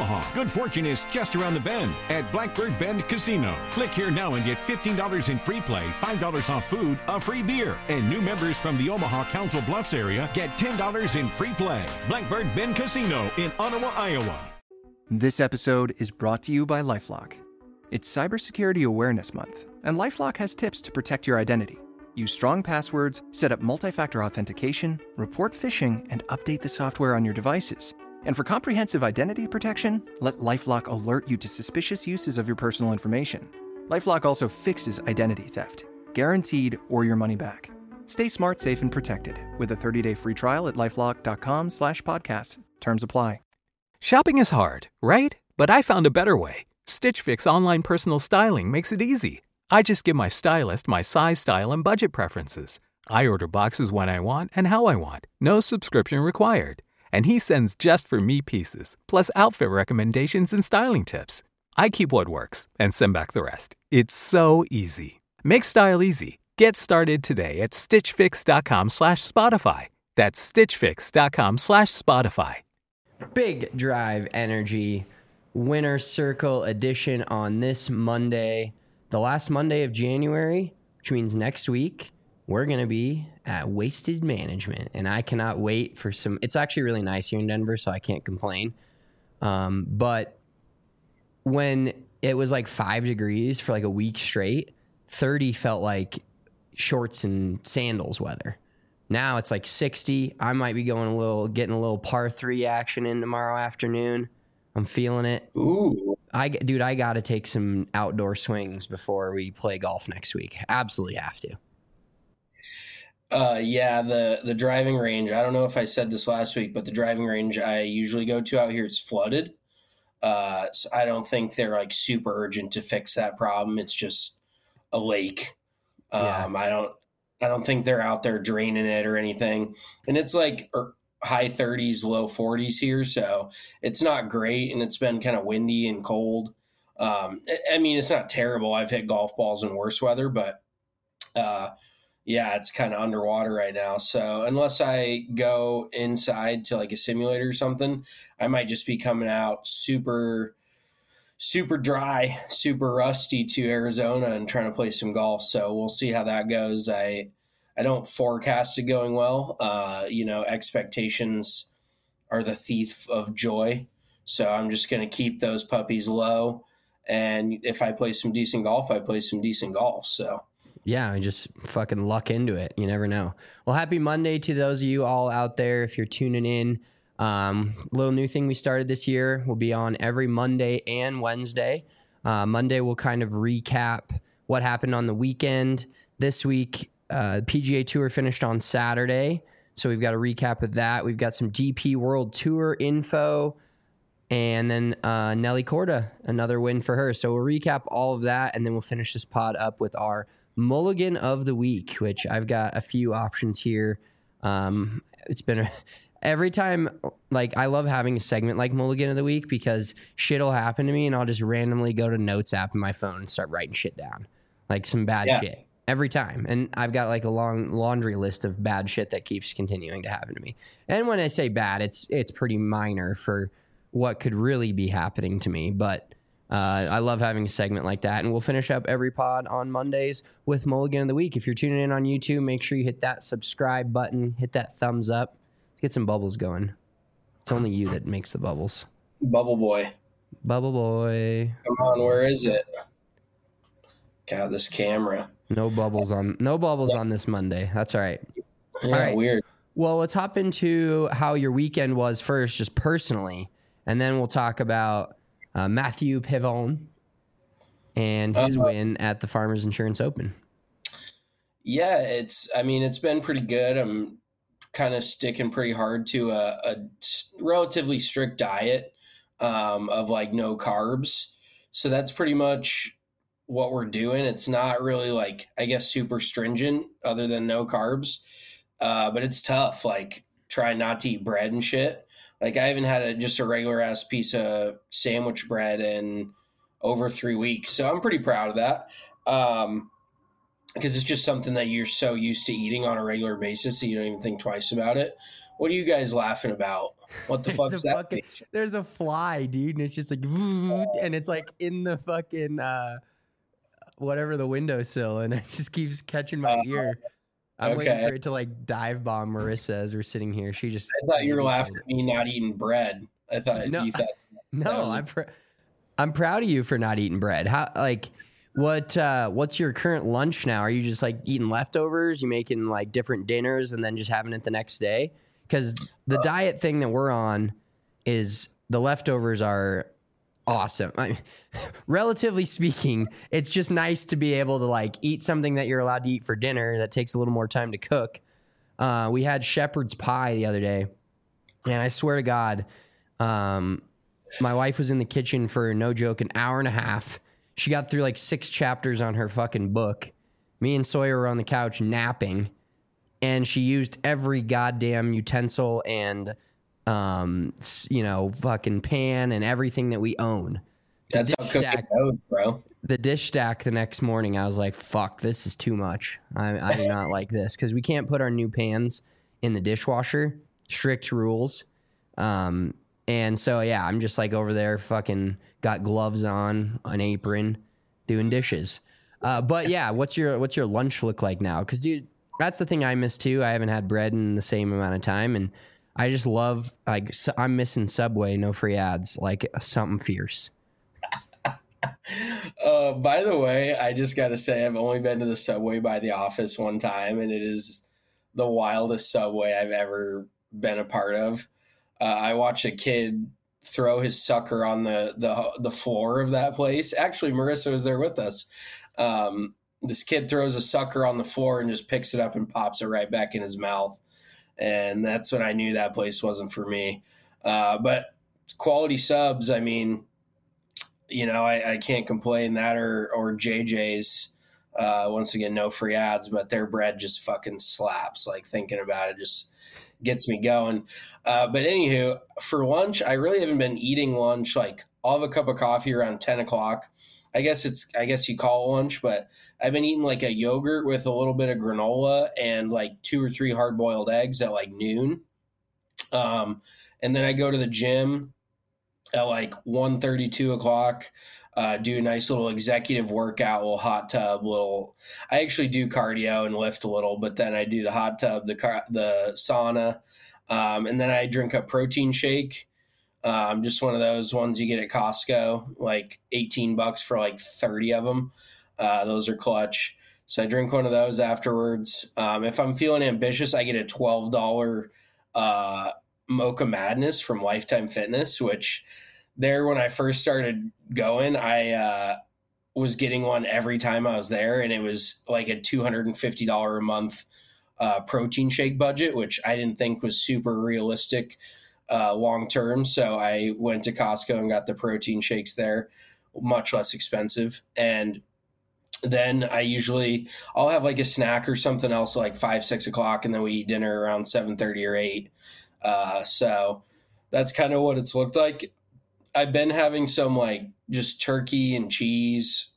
Omaha. Good fortune is just around the bend at Blackbird Bend Casino. Click here now and get $15 in free play, $5 off food, a free beer. And new members from the Omaha Council Bluffs area get $10 in free play. Blackbird Bend Casino in Ottawa, Iowa. This episode is brought to you by LifeLock. It's Cybersecurity Awareness Month, and LifeLock has tips to protect your identity. Use strong passwords, set up multi-factor authentication, report phishing, and update the software on your devices. And for comprehensive identity protection, let LifeLock alert you to suspicious uses of your personal information. LifeLock also fixes identity theft, guaranteed or your money back. Stay smart, safe, and protected with a 30-day free trial at LifeLock.com/podcast. Terms apply. Shopping is hard, right? But I found a better way. Stitch Fix online personal styling makes it easy. I just give my stylist my size, style, and budget preferences. I order boxes when I want and how I want. No subscription required. And he sends just for me pieces, plus outfit recommendations and styling tips. I keep what works and send back the rest. It's so easy. Make style easy. Get started today at stitchfix.com/Spotify. That's stitchfix.com/Spotify. Big Drive Energy Winter Circle edition on this Monday, the last Monday of January, which means next week we're going to be at Wasted Management, and I cannot wait for some. It's actually really nice here in Denver, so I can't complain. But when it was like 5 degrees for like a week straight, 30 felt like shorts and sandals weather. Now it's like 60. I might be getting a little par 3 action in tomorrow afternoon. I'm feeling it. Ooh. I got to take some outdoor swings before we play golf next week. Absolutely have to. Yeah, the driving range, I don't know if I said this last week, but the driving range I usually go to out here is flooded. So I don't think they're like super urgent to fix that problem. It's just a lake. Yeah. I don't think they're out there draining it or anything. And it's like high 30s, low 40s here. So it's not great. And it's been kind of windy and cold. I mean, it's not terrible. I've hit golf balls in worse weather, but yeah, it's kind of underwater right now. So unless I go inside to like a simulator or something, I might just be coming out super dry, super rusty to Arizona and trying to play some golf. So we'll see how that goes. I don't forecast it going well. Expectations are the thief of joy. So I'm just going to keep those puppies low. And if I play some decent golf, I play some decent golf. So yeah, just fucking luck into it. You never know. Well, happy Monday to those of you all out there. If you're tuning in, little new thing we started this year. We'll be on every Monday and Wednesday. Monday, we'll kind of recap what happened on the weekend. This week, the PGA Tour finished on Saturday, so we've got a recap of that. We've got some DP World Tour info, and then Nelly Korda, another win for her. So we'll recap all of that, and then we'll finish this pod up with our Mulligan of the Week, which I've got a few options here. It's been every time, like, I love having a segment like Mulligan of the Week because shit will happen to me, and I'll just randomly go to Notes app in my phone and start writing shit down, like some bad shit. Every time. And I've got like a long laundry list of bad shit that keeps continuing to happen to me. And when I say bad, it's pretty minor for what could really be happening to me. But I love having a segment like that. And we'll finish up every pod on Mondays with Mulligan of the Week. If you're tuning in on YouTube, make sure you hit that subscribe button, hit that thumbs up. Let's get some bubbles going. It's only you that makes the bubbles. Bubble boy. Bubble boy. Come on, where is it? God, this camera. No bubbles on this Monday. That's all right. Yeah, all right. Weird. Well, let's hop into how your weekend was first, just personally, and then we'll talk about Matthew Pavon and his win at the Farmers Insurance Open. Yeah, it's been pretty good. I'm kind of sticking pretty hard to a relatively strict diet of like no carbs. So that's pretty much what we're doing. It's not really like, I guess, super stringent other than no carbs. But it's tough, like trying not to eat bread and shit. Like I haven't had just a regular ass piece of sandwich bread in over 3 weeks. So I'm pretty proud of that. Because it's just something that you're so used to eating on a regular basis that you don't even think twice about it. What are you guys laughing about? What the fuck is that? There's a fly, dude, and it's just like, and it's like in the fucking whatever the windowsill, and it just keeps catching my ear. I'm waiting for it to like dive bomb Marissa as we're sitting here. I thought you were laughing at me not eating bread. I thought you thought. No, I'm proud of you for not eating bread. How what's your current lunch now? Are you just like eating leftovers? You making like different dinners and then just having it the next day? Because the diet thing that we're on is the leftovers are awesome. Relatively speaking, it's just nice to be able to like eat something that you're allowed to eat for dinner that takes a little more time to cook. We had shepherd's pie the other day, and I swear to God, my wife was in the kitchen for, no joke, an hour and a half. She got through like 6 chapters on her fucking book. Me and Sawyer were on the couch napping, and she used every goddamn utensil and fucking pan and everything that we own. That's how cooking goes, bro. The dish stack the next morning, I was like, fuck, this is too much. I do not like this, because we can't put our new pans in the dishwasher. Strict rules. And so, yeah, I'm just like over there fucking got gloves on, an apron, doing dishes. But yeah, what's your lunch look like now? Because, dude, that's the thing I miss too. I haven't had bread in the same amount of time, and I just love, like, I'm missing Subway, no free ads, like something fierce. By the way, I just got to say, I've only been to the Subway by the office one time, and it is the wildest Subway I've ever been a part of. I watched a kid throw his sucker on the floor of that place. Actually, Marissa was there with us. This kid throws a sucker on the floor and just picks it up and pops it right back in his mouth. And that's when I knew that place wasn't for me. But quality subs, I mean, I can't complain. That or JJ's. Once again, no free ads, but their bread just fucking slaps. Like, thinking about it just gets me going. But anywho, for lunch, I really haven't been eating lunch. Like, I'll have a cup of coffee around 10 o'clock. I guess you call it lunch, but I've been eating like a yogurt with a little bit of granola and like 2 or 3 hard-boiled eggs at like noon. And then I go to the gym at like 1:30, 2 o'clock, do a nice little executive workout, little hot tub, I actually do cardio and lift a little, but then I do the hot tub, the sauna, and then I drink a protein shake. Just one of those ones you get at Costco, like $18 for like 30 of them. Those are clutch. So I drink one of those afterwards. If I'm feeling ambitious, I get a $12 Mocha Madness from Lifetime Fitness, which when I first started going, I was getting one every time I was there, and it was like a $250 a month protein shake budget, which I didn't think was super realistic long term. So I went to Costco and got the protein shakes there, much less expensive. And then I'll have like a snack or something else like 5, 6 o'clock, and then we eat dinner around 7:30 or 8. So that's kind of what it's looked like. I've been having some like just turkey and cheese,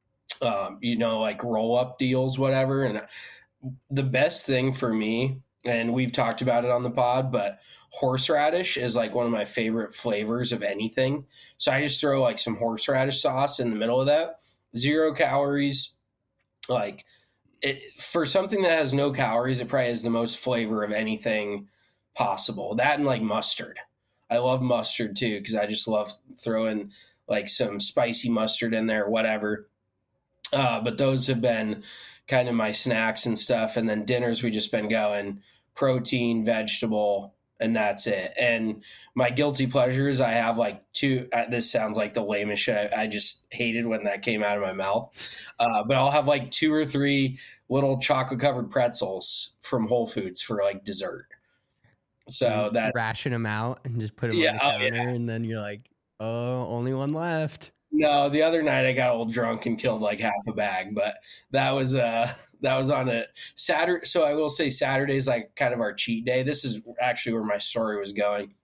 like roll up deals, whatever. And the best thing for me, and we've talked about it on the pod, but horseradish is like one of my favorite flavors of anything. So I just throw like some horseradish sauce in the middle of that. 0 calories. Like, for something that has no calories, it probably has the most flavor of anything possible. That and like mustard. I love mustard too, because I just love throwing like some spicy mustard in there, whatever. But those have been kind of my snacks and stuff. And then dinners, we just been going protein, vegetable, and that's it. And my guilty pleasures, I have like 2. This sounds like the lamest shit. I just hated when that came out of my mouth. But I'll have like 2 or 3 little chocolate covered pretzels from Whole Foods for like dessert. So that's ration them out and just put them on the counter, and then you're like, oh, only one left. No, the other night I got a little drunk and killed like half a bag, but that was on a Saturday. So I will say Saturday's like kind of our cheat day. This is actually where my story was going.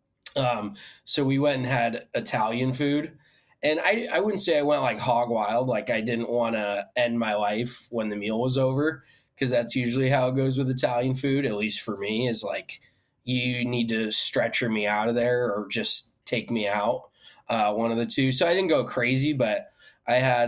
So we went and had Italian food, and I wouldn't say I went like hog wild. Like, I didn't want to end my life when the meal was over, because that's usually how it goes with Italian food, at least for me, is like, you need to stretcher me out of there or just take me out, one of the two. So I didn't go crazy, but I had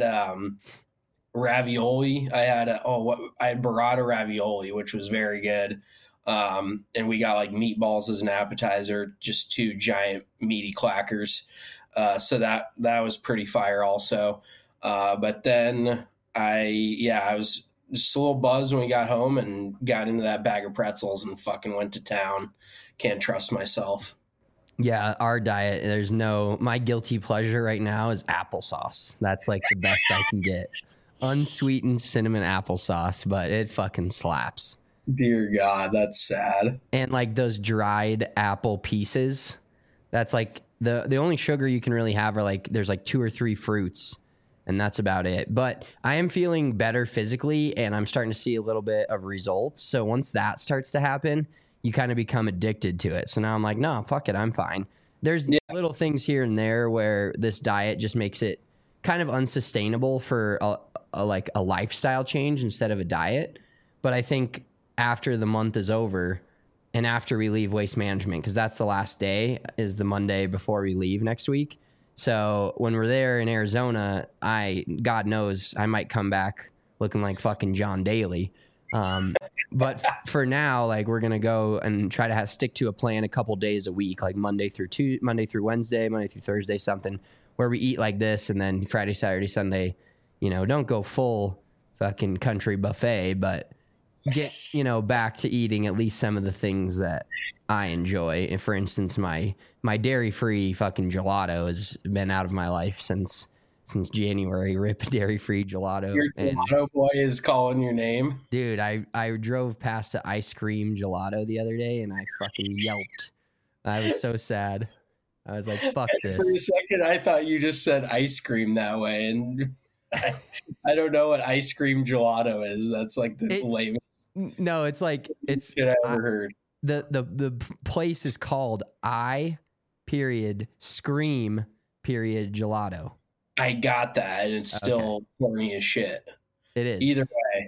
ravioli. I had burrata ravioli, which was very good. And we got like meatballs as an appetizer, just 2 giant meaty clackers. So that was pretty fire also. But then I was just a little buzzed when we got home and got into that bag of pretzels and fucking went to town. Can't trust myself. Yeah, our diet, my guilty pleasure right now is applesauce. That's like the best I can get. Unsweetened cinnamon applesauce, but it fucking slaps. Dear God, that's sad. And like those dried apple pieces, that's like the only sugar you can really have are like, there's like 2 or 3 fruits, and that's about it. But I am feeling better physically, and I'm starting to see a little bit of results. So once that starts to happen, you kind of become addicted to it. So now I'm like, no, fuck it, I'm fine. There's little things here and there where this diet just makes it kind of unsustainable for a lifestyle change instead of a diet. But I think after the month is over and after we leave Waste Management, because that's the last day, is the Monday before we leave next week. So when we're there in Arizona, God knows I might come back looking like fucking John Daly. But for now, like, we're going to go and try to stick to a plan a couple days a week, like Monday through Wednesday, Monday through Thursday, something where we eat like this. And then Friday, Saturday, Sunday, don't go full fucking country buffet, but get, back to eating at least some of the things that I enjoy. And for instance, my dairy-free fucking gelato has been out of my life since January. Rip dairy-free gelato. Your gelato boy is calling your name. Dude, I drove past the ice cream gelato the other day and I fucking yelped. I was so sad. I was like, fuck this. For a second, I thought you just said ice cream that way. And I don't know what ice cream gelato is. That's like the lamest. No, it's like, it's shit I ever heard. The place is called Scream Gelato. I got that, and it's still corny as shit. It is. Either way,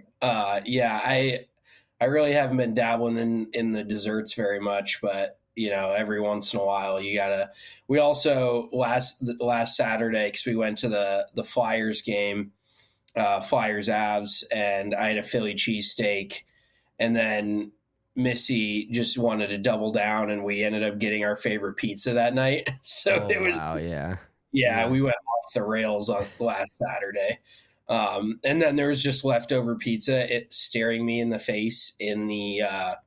I really haven't been dabbling in the desserts very much, but every once in a while you gotta. We also last Saturday, because we went to the Flyers game, Flyers Avs, and I had a Philly cheesesteak, and then Missy just wanted to double down, and we ended up getting our favorite pizza that night. So it was, we went off the rails on last Saturday. And then there was just leftover pizza staring me in the face in the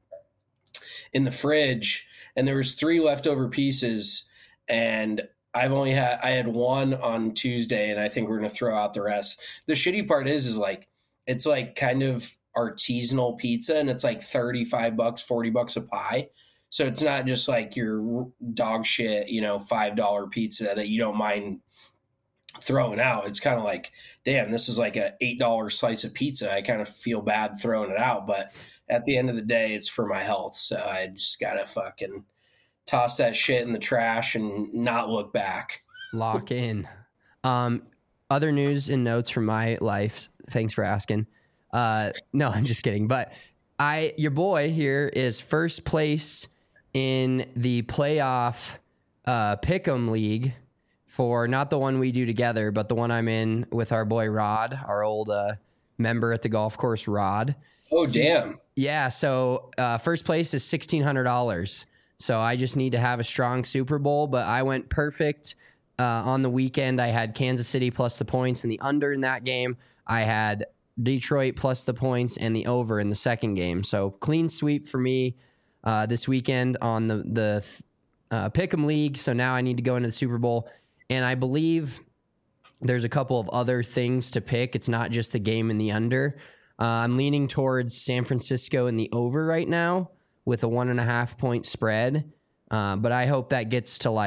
fridge. And there was 3 leftover pieces, and I had 1 on Tuesday, and I think we're going to throw out the rest. The shitty part is like, it's like kind of artisanal pizza, and it's like $35, $40 a pie. So it's not just like your dog shit, $5 pizza that you don't mind throwing out. It's kind of like, damn, this is like a $8 slice of pizza. I kind of feel bad throwing it out, but at the end of the day, it's for my health. So I just got to fucking toss that shit in the trash and not look back. Lock in. Other news and notes from my life. Thanks for asking. No, I'm just kidding. But your boy here is first place in the playoff Pick'em League for not the one we do together, but the one I'm in with our boy Rod, our old member at the golf course, Rod. Oh, damn. Yeah. So first place is $1,600. So I just need to have a strong Super Bowl, but I went perfect on the weekend. I had Kansas City plus the points and the under in that game. I had Detroit plus the points and the over in the second game. So clean sweep for me this weekend on the Pick'em League. So now I need to go into the Super Bowl. And I believe there's a couple of other things to pick. It's not just the game and the under. I'm leaning towards San Francisco in the over right now with a 1.5 point spread. But I hope that gets to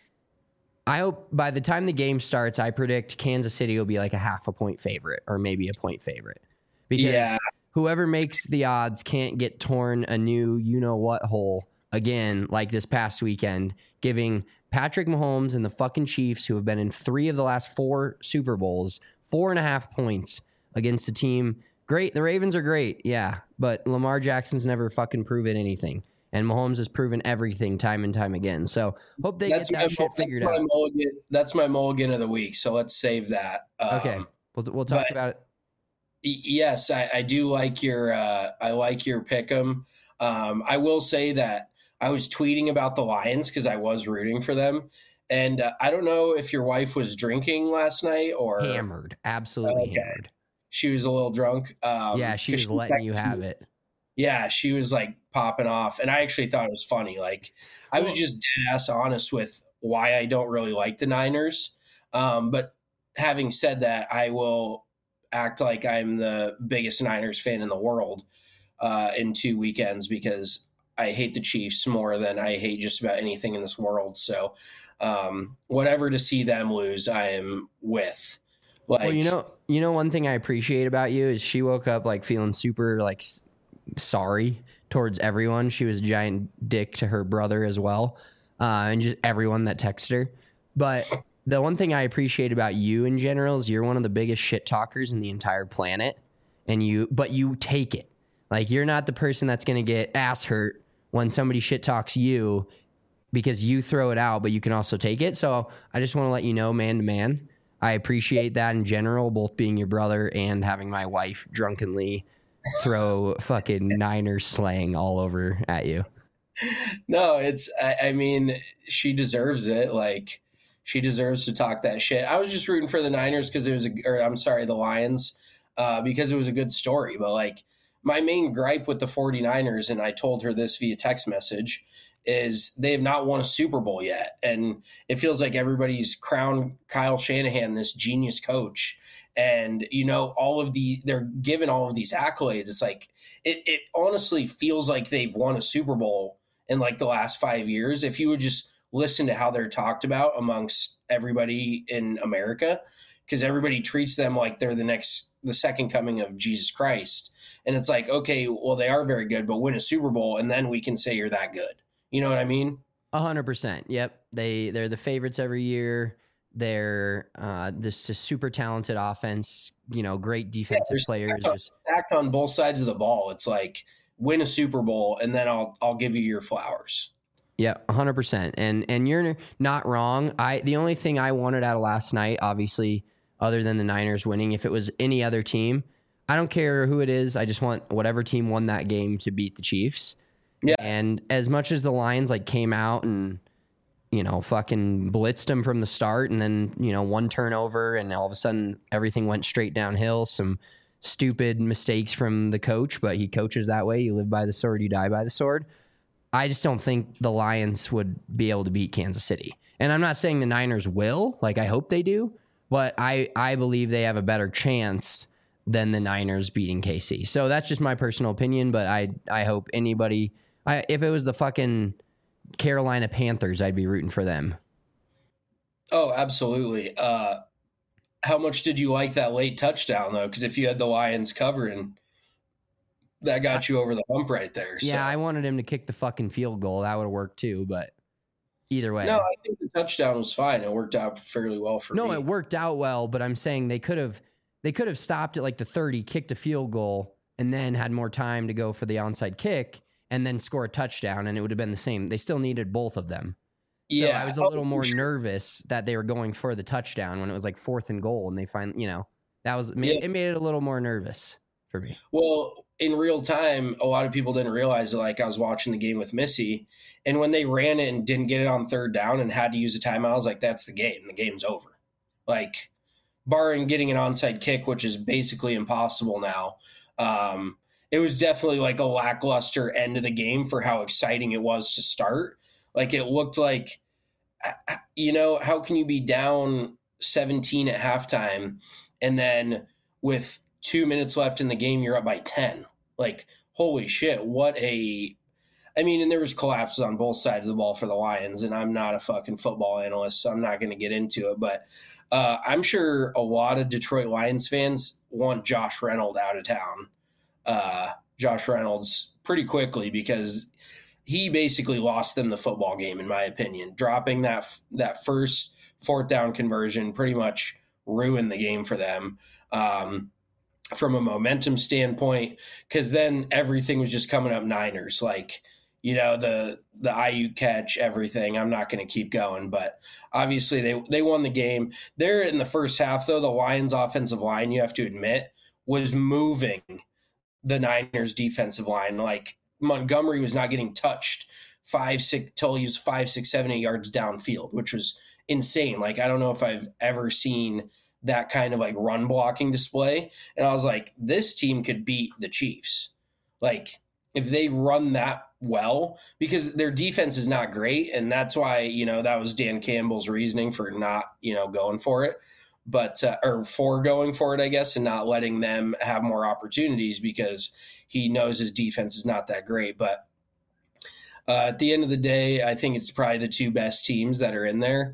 I hope by the time the game starts, I predict Kansas City will be like a 0.5 point favorite or maybe a point favorite. Because whoever makes the odds can't get torn a new you-know-what hole again like this past weekend, giving Patrick Mahomes and the fucking Chiefs, who have been in 3 of the last 4 Super Bowls, 4.5 points against a team. Great. The Ravens are great. Yeah. But Lamar Jackson's never fucking proven anything. And Mahomes has proven everything time and time again. So hope they get that shit figured out. That's my mulligan of the week. So let's save that. Okay. We'll talk about it. Yes, I do like your pick 'em. I will say that I was tweeting about the Lions because I was rooting for them. And I don't know if your wife was drinking last night or hammered, absolutely hammered. She was a little drunk. Yeah, she was letting you have it. Yeah, she was like popping off. And I actually thought it was funny. Like, I was just dead ass honest with why I don't really like the Niners. But having said that, I will act like I'm the biggest Niners fan in the world in 2 weekends because I hate the Chiefs more than I hate just about anything in this world. So whatever to see them lose, I am with. Like, well, you know, one thing I appreciate about you is she woke up like feeling super like sorry towards everyone. She was a giant dick to her brother as well, and just everyone that texted her. But the one thing I appreciate about you in general is you're one of the biggest shit talkers in the entire planet, but you take it. Like, you're not the person that's going to get ass hurt when somebody shit talks you because you throw it out, but you can also take it. So I just want to let you know, man to man, I appreciate that in general, both being your brother and having my wife drunkenly throw fucking Niners slang all over at you. No, I mean, she deserves it. Like, she deserves to talk that shit. I was just rooting for the Niners because it was the Lions, because it was a good story. But like, my main gripe with the 49ers, and I told her this via text message, is they have not won a Super Bowl yet. And it feels like everybody's crowned Kyle Shanahan this genius coach. And, you know, they're given all of these accolades. It's like, it honestly feels like they've won a Super Bowl in like the last 5 years. If you would just listen to how they're talked about amongst everybody in America, because everybody treats them like they're the second coming of Jesus Christ. And it's like, okay, well, they are very good, but win a Super Bowl and then we can say you're that good. You know what I mean? 100%. Yep. They're the favorites every year. They're this is super talented offense, you know, great defensive players. Stacked on both sides of the ball. It's like, win a Super Bowl and then I'll give you your flowers. Yeah, 100%. And you're not wrong. The only thing I wanted out of last night, obviously, other than the Niners winning, if it was any other team, I don't care who it is. I just want whatever team won that game to beat the Chiefs. Yeah. And as much as the Lions like came out and, you know, fucking blitzed them from the start, and then, you know, one turnover and all of a sudden everything went straight downhill. Some stupid mistakes from the coach, but he coaches that way. You live by the sword, you die by the sword. I just don't think the Lions would be able to beat Kansas City. And I'm not saying the Niners will, like I hope they do, but I believe they have a better chance than the Niners beating KC. So that's just my personal opinion, but I hope anybody, if it was the fucking Carolina Panthers, I'd be rooting for them. Oh, absolutely. How much did you like that late touchdown, though? Because if you had the Lions covering, that got you over the hump right there. Yeah, so. I wanted him to kick the fucking field goal. That would have worked too, but either way. No, I think the touchdown was fine. It worked out fairly well for me. No, it worked out well, but I'm saying they could have stopped at like the 30, kicked a field goal, and then had more time to go for the onside kick and then score a touchdown, and it would have been the same. They still needed both of them. So I was a little more nervous that they were going for the touchdown when it was like 4th and goal, and they finally, you know, it made it a little more nervous for me. Well, in real time, a lot of people didn't realize that, like, I was watching the game with Missy, and when they ran it and didn't get it on 3rd down and had to use a timeout, I was like, that's the game. The game's over. Like, barring getting an onside kick, which is basically impossible now, it was definitely like a lackluster end of the game for how exciting it was to start. Like, it looked like, you know, how can you be down 17 at halftime and then with 2 minutes left in the game, you're up by 10? Like, holy shit, I mean, and there was collapses on both sides of the ball for the Lions, and I'm not a fucking football analyst, so I'm not going to get into it. But I'm sure a lot of Detroit Lions fans want Josh Reynolds out of town. Josh Reynolds pretty quickly, because he basically lost them the football game, in my opinion. Dropping that first 4th down conversion pretty much ruined the game for them. From a momentum standpoint, because then everything was just coming up Niners. Like, the IU catch, everything. I'm not going to keep going, but obviously they won the game. There in the first half, though, the Lions offensive line, you have to admit, was moving the Niners defensive line. Like Montgomery was not getting touched 5, 6 till he was 5, 6, 7, 8 yards downfield, which was insane. Like, I don't know if I've ever seen that kind of like run blocking display. And I was like, this team could beat the Chiefs. Like, if they run that well, because their defense is not great. And that's why, that was Dan Campbell's reasoning for not, going for it, but, or for going for it, I guess, and not letting them have more opportunities because he knows his defense is not that great. But at the end of the day, I think it's probably the two best teams that are in there.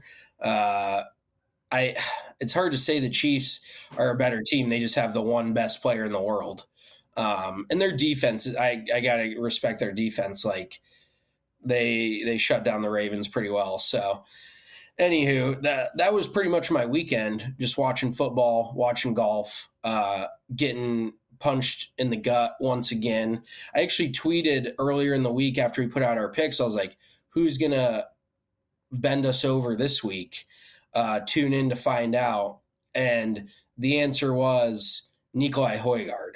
It's hard to say the Chiefs are a better team. They just have the one best player in the world. And their defense, I got to respect their defense. Like they shut down the Ravens pretty well. So anywho, that was pretty much my weekend, just watching football, watching golf, getting punched in the gut once again. I actually tweeted earlier in the week after we put out our picks, I was like, who's going to bend us over this week? Tune in to find out. And the answer was Nikolai Højgaard.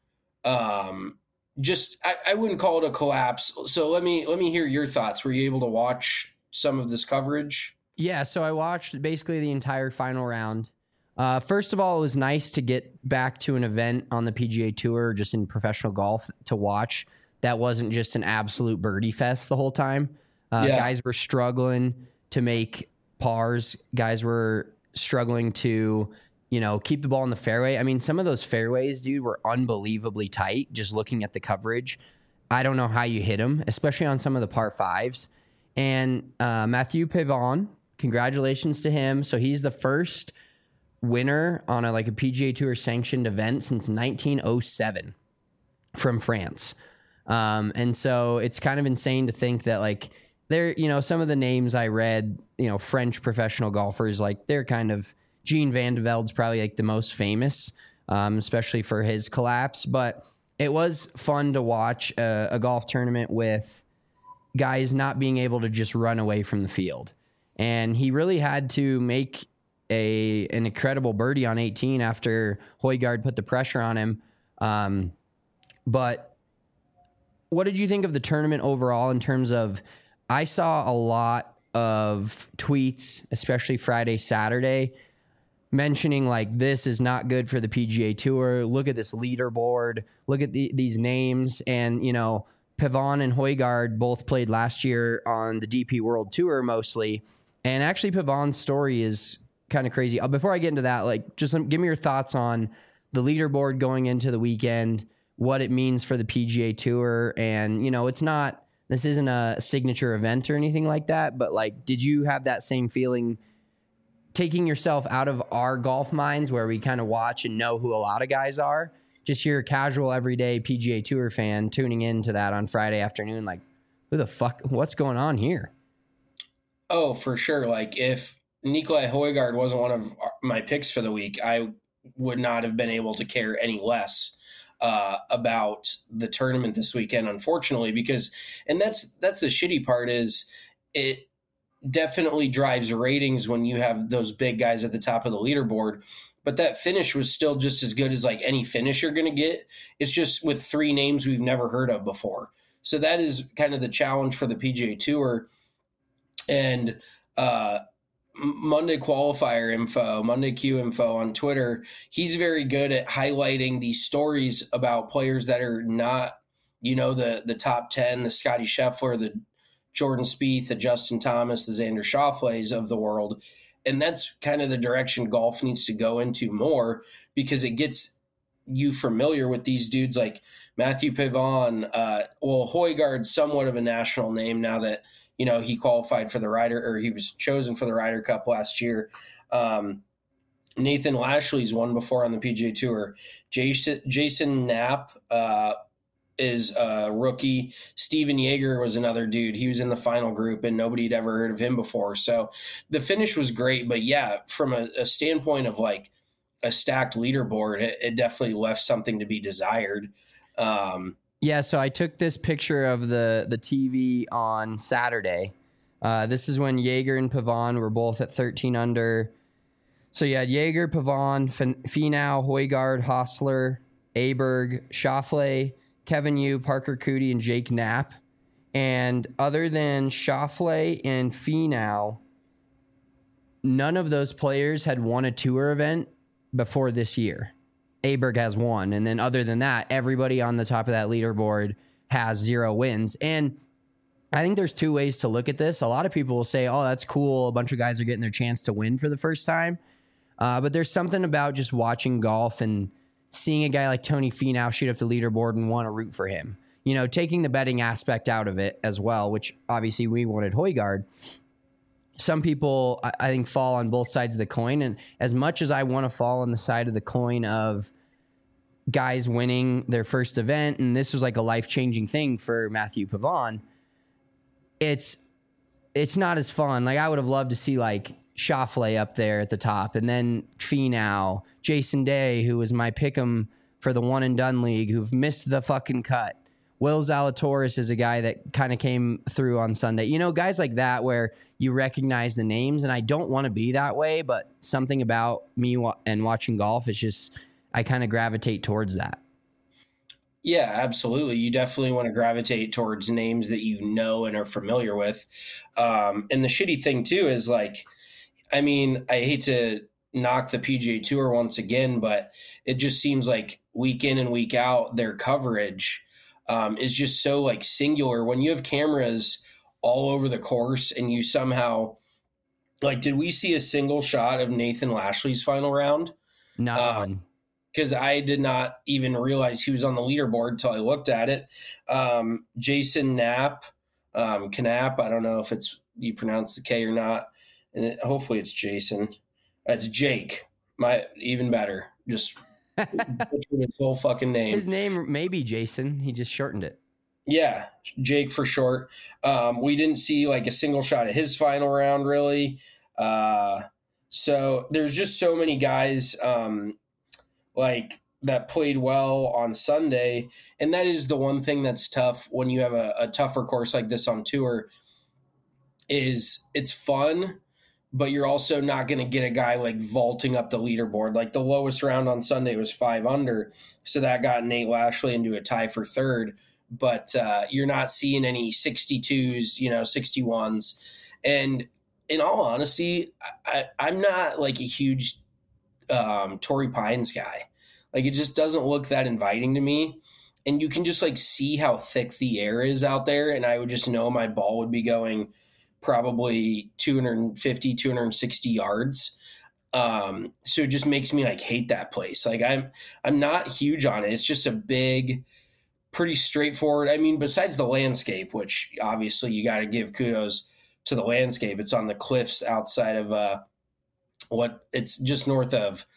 I wouldn't call it a collapse. So let me hear your thoughts. Were you able to watch some of this coverage? Yeah, so I watched basically the entire final round. First of all, it was nice to get back to an event on the PGA Tour, just in professional golf, to watch. That wasn't just an absolute birdie fest the whole time. Guys were struggling to make pars. Guys were struggling to, keep the ball in the fairway. I mean, some of those fairways, dude, were unbelievably tight just looking at the coverage. I don't know how you hit them, especially on some of the par fives. And Mathieu Pavon, congratulations to him. So he's the first winner on a PGA Tour sanctioned event since 1907 from France. And so it's kind of insane to think that some of the names I read, French professional golfers, they're kind of, Gene Van de Velde's probably the most famous, especially for his collapse. But it was fun to watch a golf tournament with guys not being able to just run away from the field. And he really had to make an incredible birdie on 18 after Højgaard put the pressure on him. But what did you think of the tournament overall in terms of, I saw a lot of tweets, especially Friday, Saturday, mentioning this is not good for the PGA Tour. Look at this leaderboard. Look at these names. And, Pavon and Højgaard both played last year on the DP World Tour mostly. And actually Pavon's story is kind of crazy. Before I get into that, just give me your thoughts on the leaderboard going into the weekend, what it means for the PGA Tour. And, this isn't a signature event or anything like that, but did you have that same feeling taking yourself out of our golf minds where we kind of watch and know who a lot of guys are? Just your casual everyday PGA Tour fan tuning into that on Friday afternoon, who the fuck, what's going on here? Oh, for sure. If Nikolai Højgaard wasn't one of my picks for the week, I would not have been able to care any less about the tournament this weekend, unfortunately, and that's the shitty part, is it definitely drives ratings when you have those big guys at the top of the leaderboard. But that finish was still just as good as any finish you're going to get. It's just with three names we've never heard of before. So that is kind of the challenge for the PGA Tour. And Monday Qualifier info, Monday Q info on Twitter, he's very good at highlighting these stories about players that are not, the top 10, the Scotty Scheffler, the Jordan Spieth, the Justin Thomas, the Xander Schauffele's of the world. And that's kind of the direction golf needs to go into more, because it gets you familiar with these dudes like Mathieu Pavon. Højgaard's somewhat of a national name now that, he qualified for the Ryder, or he was chosen for the Ryder Cup last year. Nathan Lashley's won before on the PGA Tour. Jason Knapp is a rookie. Steven Yeager was another dude. He was in the final group, and nobody had ever heard of him before. So the finish was great. But, yeah, from a standpoint of, a stacked leaderboard, it definitely left something to be desired. Yeah, so I took this picture of the TV on Saturday. This is when Jaeger and Pavon were both at 13 under. So you had Jaeger, Pavon, Finau, Højgaard, Hostler, Aberg, Schauffele, Kevin Yu, Parker Cootie, and Jake Knapp. And other than Schauffele and Finau, none of those players had won a tour event before this year. Aberg has one. And then other than that, everybody on the top of that leaderboard has 0 wins. And I think there's 2 ways to look at this. A lot of people will say, oh, that's cool. A bunch of guys are getting their chance to win for the first time. But there's something about just watching golf and seeing a guy like Tony Finau shoot up the leaderboard and want to root for him. You know, taking the betting aspect out of it as well, which obviously we wanted Højgaard. Some people, I think, fall on both sides of the coin. And as much as I want to fall on the side of the coin of guys winning their first event, and this was like a life-changing thing for Matthew Pavon, it's not as fun. Like, I would have loved to see, like, Schauffele up there at the top, and then Finau, Jason Day, who was my pick'em for the one and done league, who've missed the fucking cut. Will Zalatoris is a guy that kind of came through on Sunday. You know, guys like that where you recognize the names, and I don't want to be that way, but something about me and watching golf is just, I kind of gravitate towards that. Yeah, absolutely. You definitely want to gravitate towards names that you know and are familiar with. And the shitty thing too is, like, I mean, I hate to knock the PGA Tour once again, but it just seems like week in and week out, their coverage is just so, like, singular. When you have cameras all over the course and you somehow, like, did we see a single shot of Nathan Lashley's final round? Not one. Because I did not even realize he was on the leaderboard until I looked at it. Jason Knapp, Knapp, I don't know if you pronounce the K or not. And hopefully it's Jason. It's Jake. Even better. Just his whole fucking name. His name may be Jason. He just shortened it. Yeah, Jake for short. We didn't see, like, a single shot of his final round, really. So there's just so many guys like that played well on Sunday. And that is the one thing that's tough when you have a tougher course like this on tour, is it's fun, but you're also not going to get a guy like vaulting up the leaderboard. Like, the lowest round on Sunday was 5 under. So that got Nate Lashley into a tie for third, but you're not seeing any 62s, 61s. And in all honesty, I'm not like a huge Torrey Pines guy. Like, it just doesn't look that inviting to me. And you can just, like, see how thick the air is out there. And I would just know my ball would be going probably 250, 260 yards. So it just makes me, like, hate that place. Like, I'm not huge on it. It's just a big, pretty straightforward. I mean, besides the landscape, which obviously you got to give kudos to the landscape. It's on the cliffs outside of it's just north of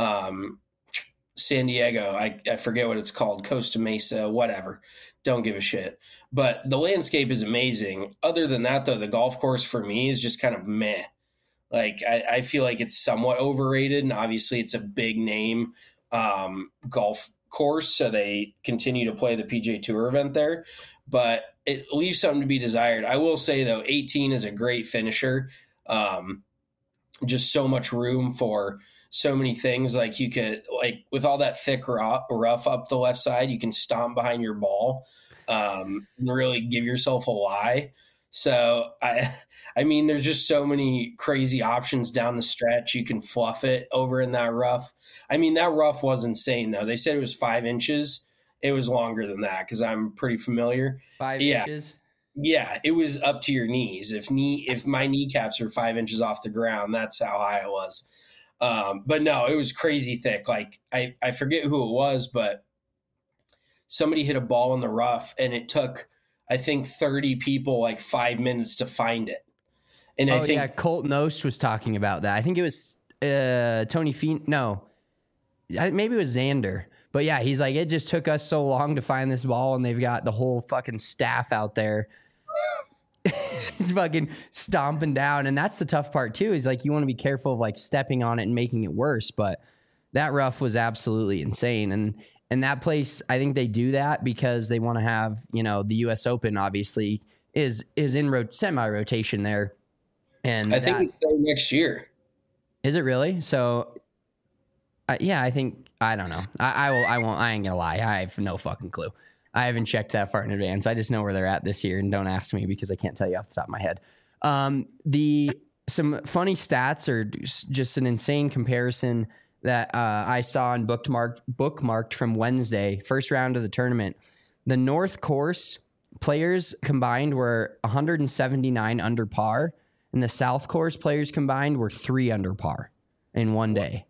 San Diego. I forget what it's called, Costa Mesa, whatever. Don't give a shit. But the landscape is amazing. Other than that, though, the golf course for me is just kind of meh. Like, I feel like it's somewhat overrated, and obviously it's a big name golf course, so they continue to play the PGA Tour event there. But it leaves something to be desired. I will say, though, 18 is a great finisher. Just so much room for so many things. Like, you could, like, with all that thick rough up the left side, you can stomp behind your ball and really give yourself a lie. So, I mean, there's just so many crazy options down the stretch. You can fluff it over in that rough. I mean, that rough was insane, though. They said it was 5 inches. It was longer than that because I'm pretty familiar. 5 inches? Yeah, it was up to your knees. If my kneecaps are 5 inches off the ground, that's how high it was. But no, it was crazy thick. Like, I forget who it was, but somebody hit a ball in the rough, and it took, I think, 30 people like 5 minutes to find it. And I think Colton Oast was talking about that. I think it was Tony Fien. No, maybe it was Xander. But yeah, he's like, it just took us so long to find this ball, and they've got the whole fucking staff out there. He's fucking stomping down. And that's the tough part too, is like, you want to be careful of like stepping on it and making it worse. But that rough was absolutely insane. And that place, I think they do that because they want to have, the U.S. Open obviously is in semi-rotation there. And I think it's there next year. Is it really? So, yeah, I think, I don't know. I ain't gonna lie. I have no fucking clue. I haven't checked that far in advance. I just know where they're at this year, and don't ask me because I can't tell you off the top of my head. Some funny stats or just an insane comparison that I saw and bookmarked from Wednesday, first round of the tournament. The North Course players combined were 179 under par, and the South Course players combined were 3 under par in one day.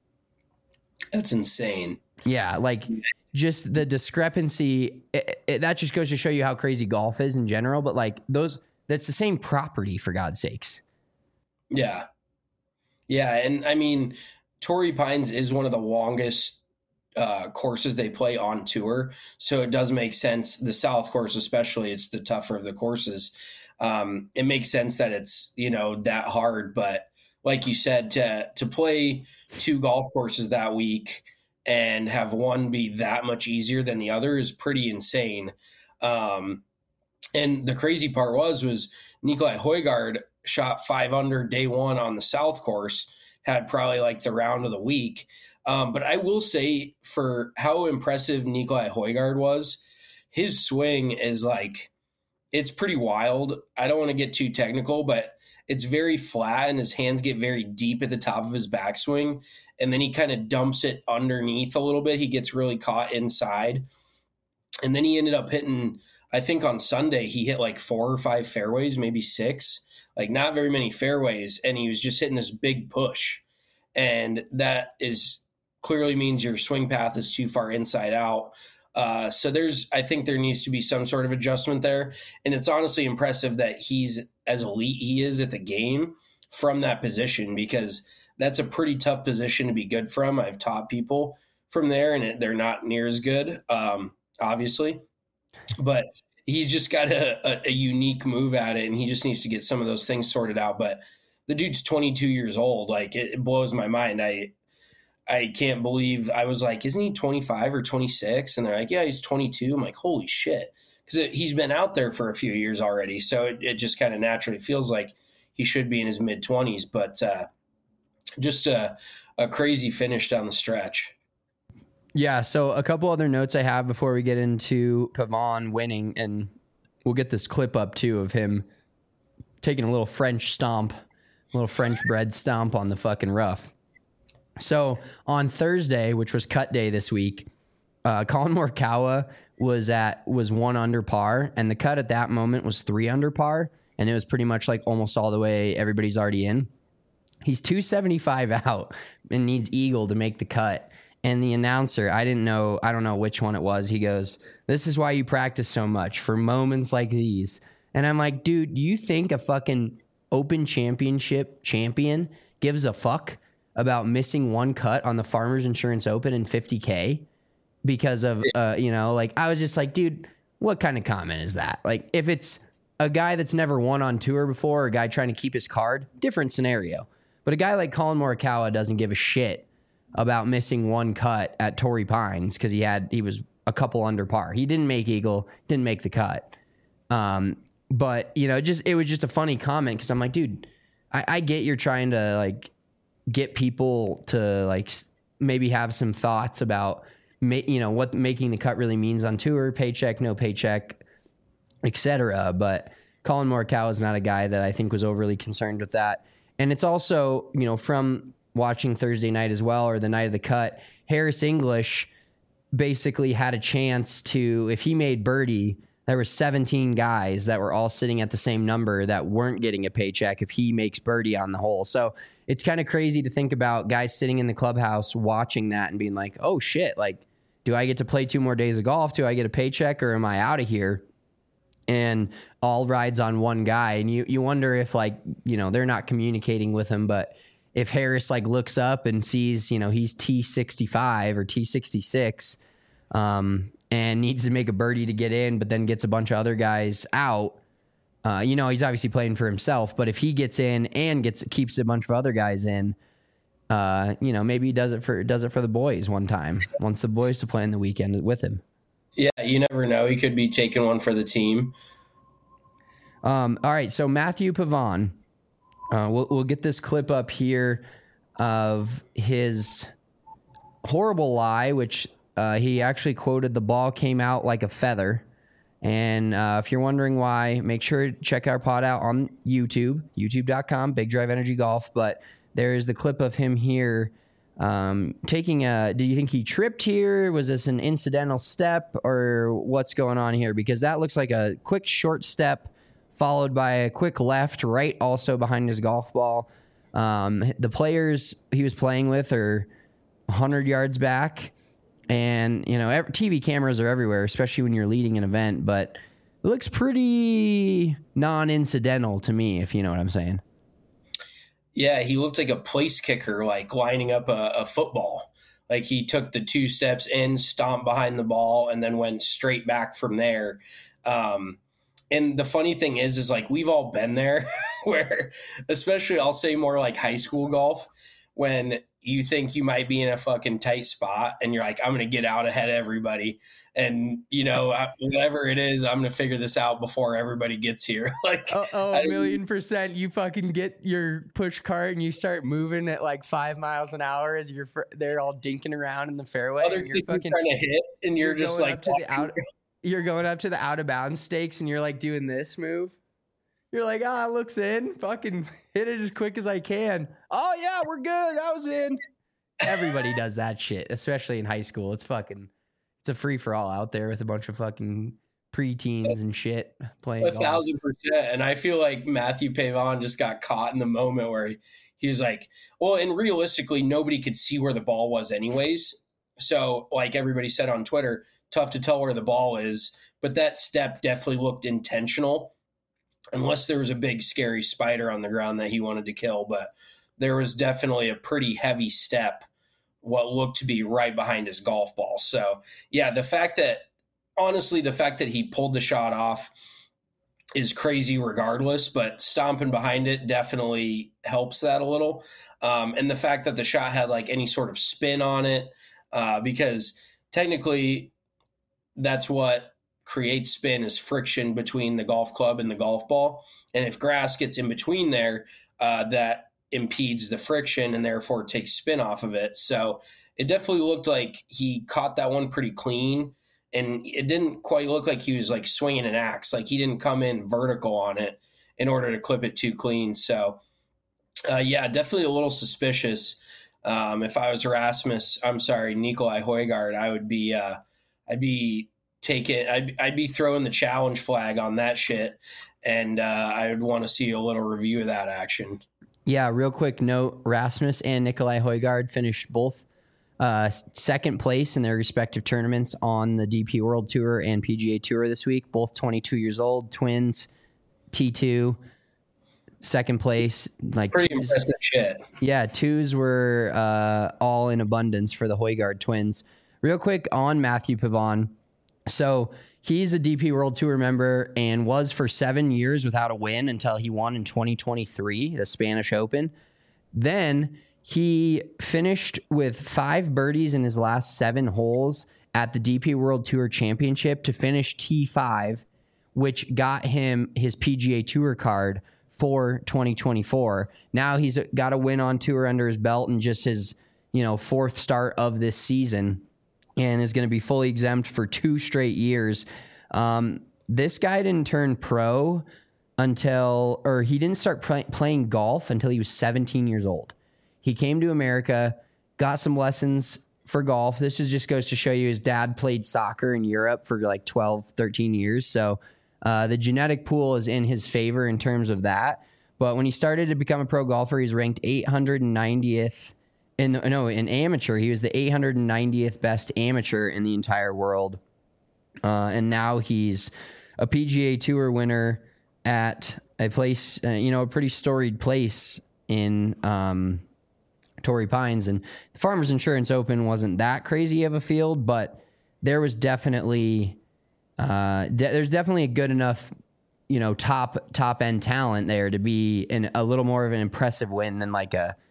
That's insane. Yeah, like just the discrepancy. That just goes to show you how crazy golf is in general. But like that's the same property, for God's sakes. Yeah. Yeah. And I mean, Torrey Pines is one of the longest courses they play on tour. So it does make sense. The South Course, especially, it's the tougher of the courses. It makes sense that it's, that hard. But like you said, to play 2 golf courses that week and have one be that much easier than the other is pretty insane. And the crazy part was Nicolai Højgaard shot 5 under day 1 on the South Course, had probably like the round of the week. But I will say, for how impressive Nicolai Højgaard was, his swing is like, it's pretty wild. I don't want to get too technical, but it's very flat and his hands get very deep at the top of his backswing. And then he kind of dumps it underneath a little bit. He gets really caught inside. And then he ended up hitting, I think on Sunday, he hit like 4 or 5 fairways, maybe 6, like not very many fairways. And he was just hitting this big push. And that is clearly means your swing path is too far inside out. So I think there needs to be some sort of adjustment there. And it's honestly impressive that he's as elite he is at the game from that position, because that's a pretty tough position to be good from. I've taught people from there and they're not near as good, obviously, but he's just got a unique move at it, and he just needs to get some of those things sorted out. But the dude's 22 years old. Like, it blows my mind. I can't believe, I was like, isn't he 25 or 26? And they're like, yeah, he's 22. I'm like, holy shit. Because he's been out there for a few years already. So it just kind of naturally feels like he should be in his mid-20s. But just a crazy finish down the stretch. Yeah, so a couple other notes I have before we get into Pavon winning, and we'll get this clip up too of him taking a little French bread stomp on the fucking rough. So on Thursday, which was cut day this week, Colin Morikawa was 1 under par, and the cut at that moment was 3 under par, and it was pretty much like almost all the way everybody's already in. He's 275 out and needs eagle to make the cut. And the announcer, I don't know which one it was. He goes, "This is why you practice so much, for moments like these." And I'm like, dude, you think a fucking Open Championship champion gives a fuck about missing 1 cut on the Farmers Insurance Open in $50K because of, like, I was just like, dude, what kind of comment is that? Like, if it's a guy that's never won on tour before, or a guy trying to keep his card, different scenario. But a guy like Colin Morikawa doesn't give a shit about missing 1 cut at Torrey Pines because he was a couple under par. He didn't make eagle, didn't make the cut. But it was just a funny comment because I'm like, dude, I get you're trying to like get people to like maybe have some thoughts about what making the cut really means on tour, paycheck, no paycheck, etc. But Colin Morikawa is not a guy that I think was overly concerned with that. And it's also, from watching Thursday night as well, or the night of the cut, Harris English basically had a chance to, if he made birdie, there were 17 guys that were all sitting at the same number that weren't getting a paycheck if he makes birdie on the hole. So it's kind of crazy to think about guys sitting in the clubhouse watching that and being like, oh shit, like, do I get to play 2 more days of golf? Do I get a paycheck, or am I out of here? And all rides on one guy. And you wonder if, like, they're not communicating with him, but if Harris like looks up and sees, he's T65 or T66, and needs to make a birdie to get in, but then gets a bunch of other guys out, he's obviously playing for himself, but if he gets in and keeps a bunch of other guys in, maybe he does it for the boys one time. Wants the boys to play in the weekend with him. Yeah, you never know. He could be taking one for the team. All right, so Matthew Pavon, we'll get this clip up here of his horrible lie, which he actually quoted, "The ball came out like a feather." And if you're wondering why, make sure to check our pod out on YouTube, youtube.com, Big Drive Energy Golf. But there is the clip of him here taking do you think he tripped here? Was this an incidental step, or what's going on here? Because that looks like a quick short step followed by a quick left, right, also behind his golf ball. The players he was playing with are 100 yards back. And, TV cameras are everywhere, especially when you're leading an event. But it looks pretty non-incidental to me, if you know what I'm saying. Yeah, he looked like a place kicker, like lining up a football. Like he took the 2 steps in, stomped behind the ball, and then went straight back from there. And the funny thing is like we've all been there where, especially I'll say more like high school golf, when you think you might be in a fucking tight spot and you're like, I'm going to get out ahead of everybody. And, whatever it is, I'm going to figure this out before everybody gets here. Like, a 1,000,000%. You fucking get your push cart and you start moving at like 5 miles an hour as they're all dinking around in the fairway. Other and you're fucking trying to hit and you're just like, you're going up to the out of bounds stakes and you're like doing this move. You're like, it looks in. Fucking hit it as quick as I can. Oh, yeah, we're good. I was in. Everybody does that shit, especially in high school. It's a free-for-all out there with a bunch of fucking preteens and shit playing 1,000%. And I feel like Matthew Pavon just got caught in the moment where he was like, well, and realistically, nobody could see where the ball was anyways. So, like everybody said on Twitter, tough to tell where the ball is. But that step definitely looked intentional. Unless there was a big scary spider on the ground that he wanted to kill, but there was definitely a pretty heavy step, what looked to be right behind his golf ball. So yeah, the fact that he pulled the shot off is crazy regardless, but stomping behind it definitely helps that a little. And the fact that the shot had like any sort of spin on it, because technically that's what creates spin is friction between the golf club and the golf ball. And if grass gets in between there, that impedes the friction and therefore takes spin off of it. So it definitely looked like he caught that one pretty clean, and it didn't quite look like he was like swinging an axe. Like he didn't come in vertical on it in order to clip it too clean. So yeah, definitely a little suspicious. If I was Nicolai Højgaard, I'd be throwing the challenge flag on that shit, and I would want to see a little review of that action. Yeah, real quick note, Rasmus and Nicolai Højgaard finished both second place in their respective tournaments on the DP World Tour and PGA Tour this week, both 22 years old, twins, T2, second place. Like pretty impressive shit. Yeah, twos were all in abundance for the Højgaard twins. Real quick on Matthew Pavon. So he's a DP World Tour member and was for 7 years without a win until he won in 2023, the Spanish Open. Then he finished with 5 birdies in his last 7 holes at the DP World Tour Championship to finish T5, which got him his PGA Tour card for 2024. Now he's got a win on tour under his belt and just his, 4th start of this season, and is going to be fully exempt for 2 straight years. This guy didn't turn pro he didn't start playing golf until he was 17 years old. He came to America, got some lessons for golf. This just goes to show you his dad played soccer in Europe for like 12, 13 years. So the genetic pool is in his favor in terms of that. But when he started to become a pro golfer, he's ranked 890th. In amateur, he was the 890th best amateur in the entire world. And now he's a PGA Tour winner at a place, a pretty storied place in Torrey Pines. And the Farmers Insurance Open wasn't that crazy of a field, but there was definitely, there's definitely a good enough, top end talent there to be a little more of an impressive win than like a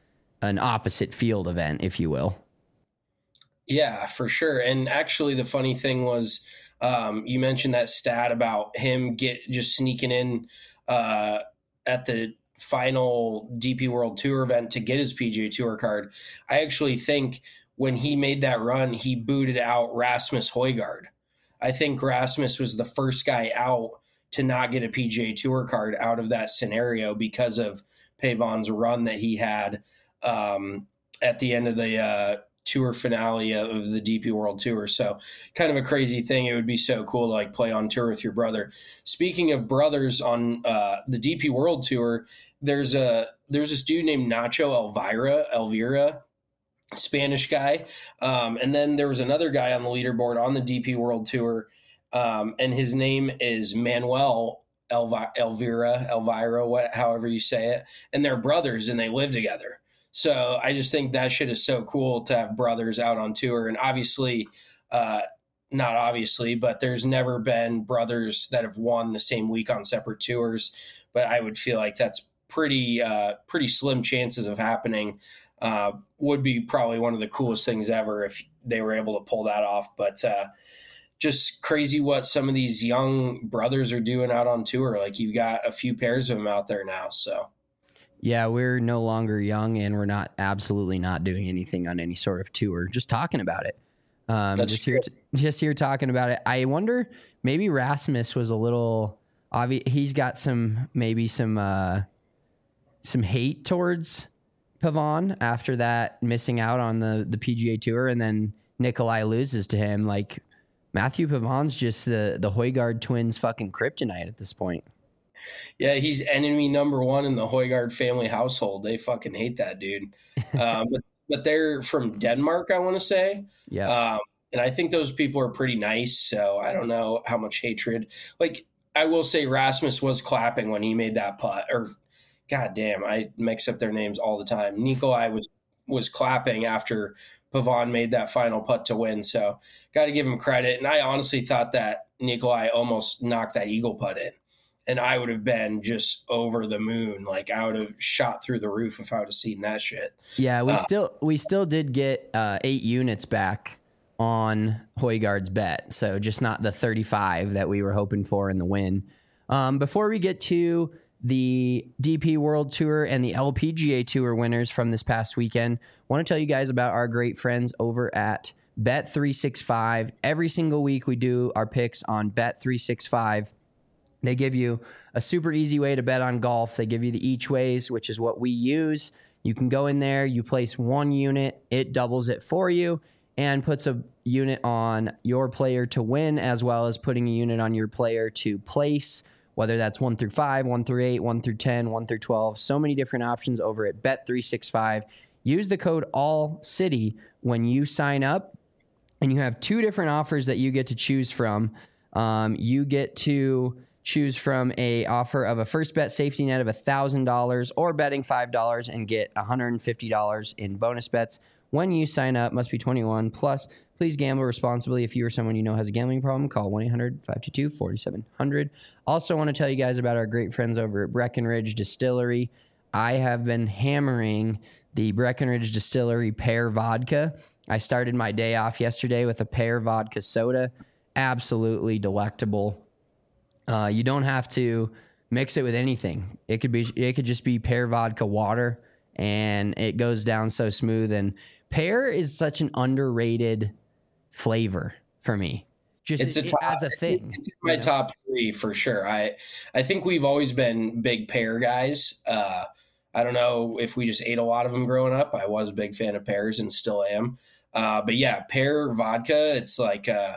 an opposite field event, if you will. Yeah, for sure. And actually, the funny thing was, you mentioned that stat about him just sneaking in at the final DP World Tour event to get his PGA Tour card. I actually think when he made that run, he booted out Rasmus Højgaard. I think Rasmus was the first guy out to not get a PGA Tour card out of that scenario because of Pavon's run that he had at the end of the tour finale of the DP World Tour. So kind of a crazy thing. It would be so cool to like play on tour with your brother. Speaking of brothers on the DP World Tour, there's this dude named Nacho Elvira, Spanish guy. And then there was another guy on the leaderboard on the DP World Tour. And his name is Manuel Elvira, however you say it. And they're brothers and they live together. So I just think that shit is so cool to have brothers out on tour. And obviously, not obviously, but there's never been brothers that have won the same week on separate tours. But I would feel like that's pretty slim chances of happening. Would be probably one of the coolest things ever if they were able to pull that off. But just crazy what some of these young brothers are doing out on tour. Like you've got a few pairs of them out there now. So. Yeah, we're no longer young, and we're absolutely not doing anything on any sort of tour. Just talking about it. Just here talking about it. I wonder, maybe Rasmus was a little obvious. He's got some hate towards Pavon after that missing out on the PGA Tour, and then Nicolai loses to him. Like Matthew Pavon's just the Højgaard twins fucking kryptonite at this point. Yeah, he's enemy number one in the Højgaard family household. They fucking hate that dude. But they're from Denmark, I want to say. Yeah. And I think those people are pretty nice. So I don't know how much hatred. Like, I will say Rasmus was clapping when he made that putt. Or, goddamn, I mix up their names all the time. Nicolai was clapping after Pavon made that final putt to win. So got to give him credit. And I honestly thought that Nicolai almost knocked that eagle putt in. And I would have been just over the moon. Like I would have shot through the roof if I would have seen that shit. Yeah, we still did get 8 units back on Højgaard's bet. So just not the 35 that we were hoping for in the win. Before we get to the DP World Tour and the LPGA Tour winners from this past weekend, I want to tell you guys about our great friends over at Bet365. Every single week we do our picks on Bet365. They give you a super easy way to bet on golf. They give you the each ways, which is what we use. You can go in there, you place 1 unit, it doubles it for you and puts a unit on your player to win, as well as putting a unit on your player to place, whether that's 1 through 5, 1 through 8, 1 through 10, 1 through 12. So many different options over at Bet365. Use the code ALLCITY when you sign up, and you have 2 different offers that you get to choose from. You get to choose from a offer of a first bet safety net of $1,000 or betting $5 and get $150 in bonus bets when you sign up. Must be 21 plus. Please gamble responsibly. If you or someone you know has a gambling problem, call 1-800-522-4700. Also want to tell you guys about our great friends over at Breckenridge Distillery. I have been hammering the Breckenridge Distillery pear vodka. I started my day off yesterday with a pear vodka soda. Absolutely delectable. You don't have to mix it with anything. It could just be pear vodka water, and it goes down so smooth. And pear is such an underrated flavor for me. Just as a thing. It's in my top 3 for sure. I think we've always been big pear guys. I don't know if we just ate a lot of them growing up. I was a big fan of pears and still am. But yeah, pear vodka, it's like a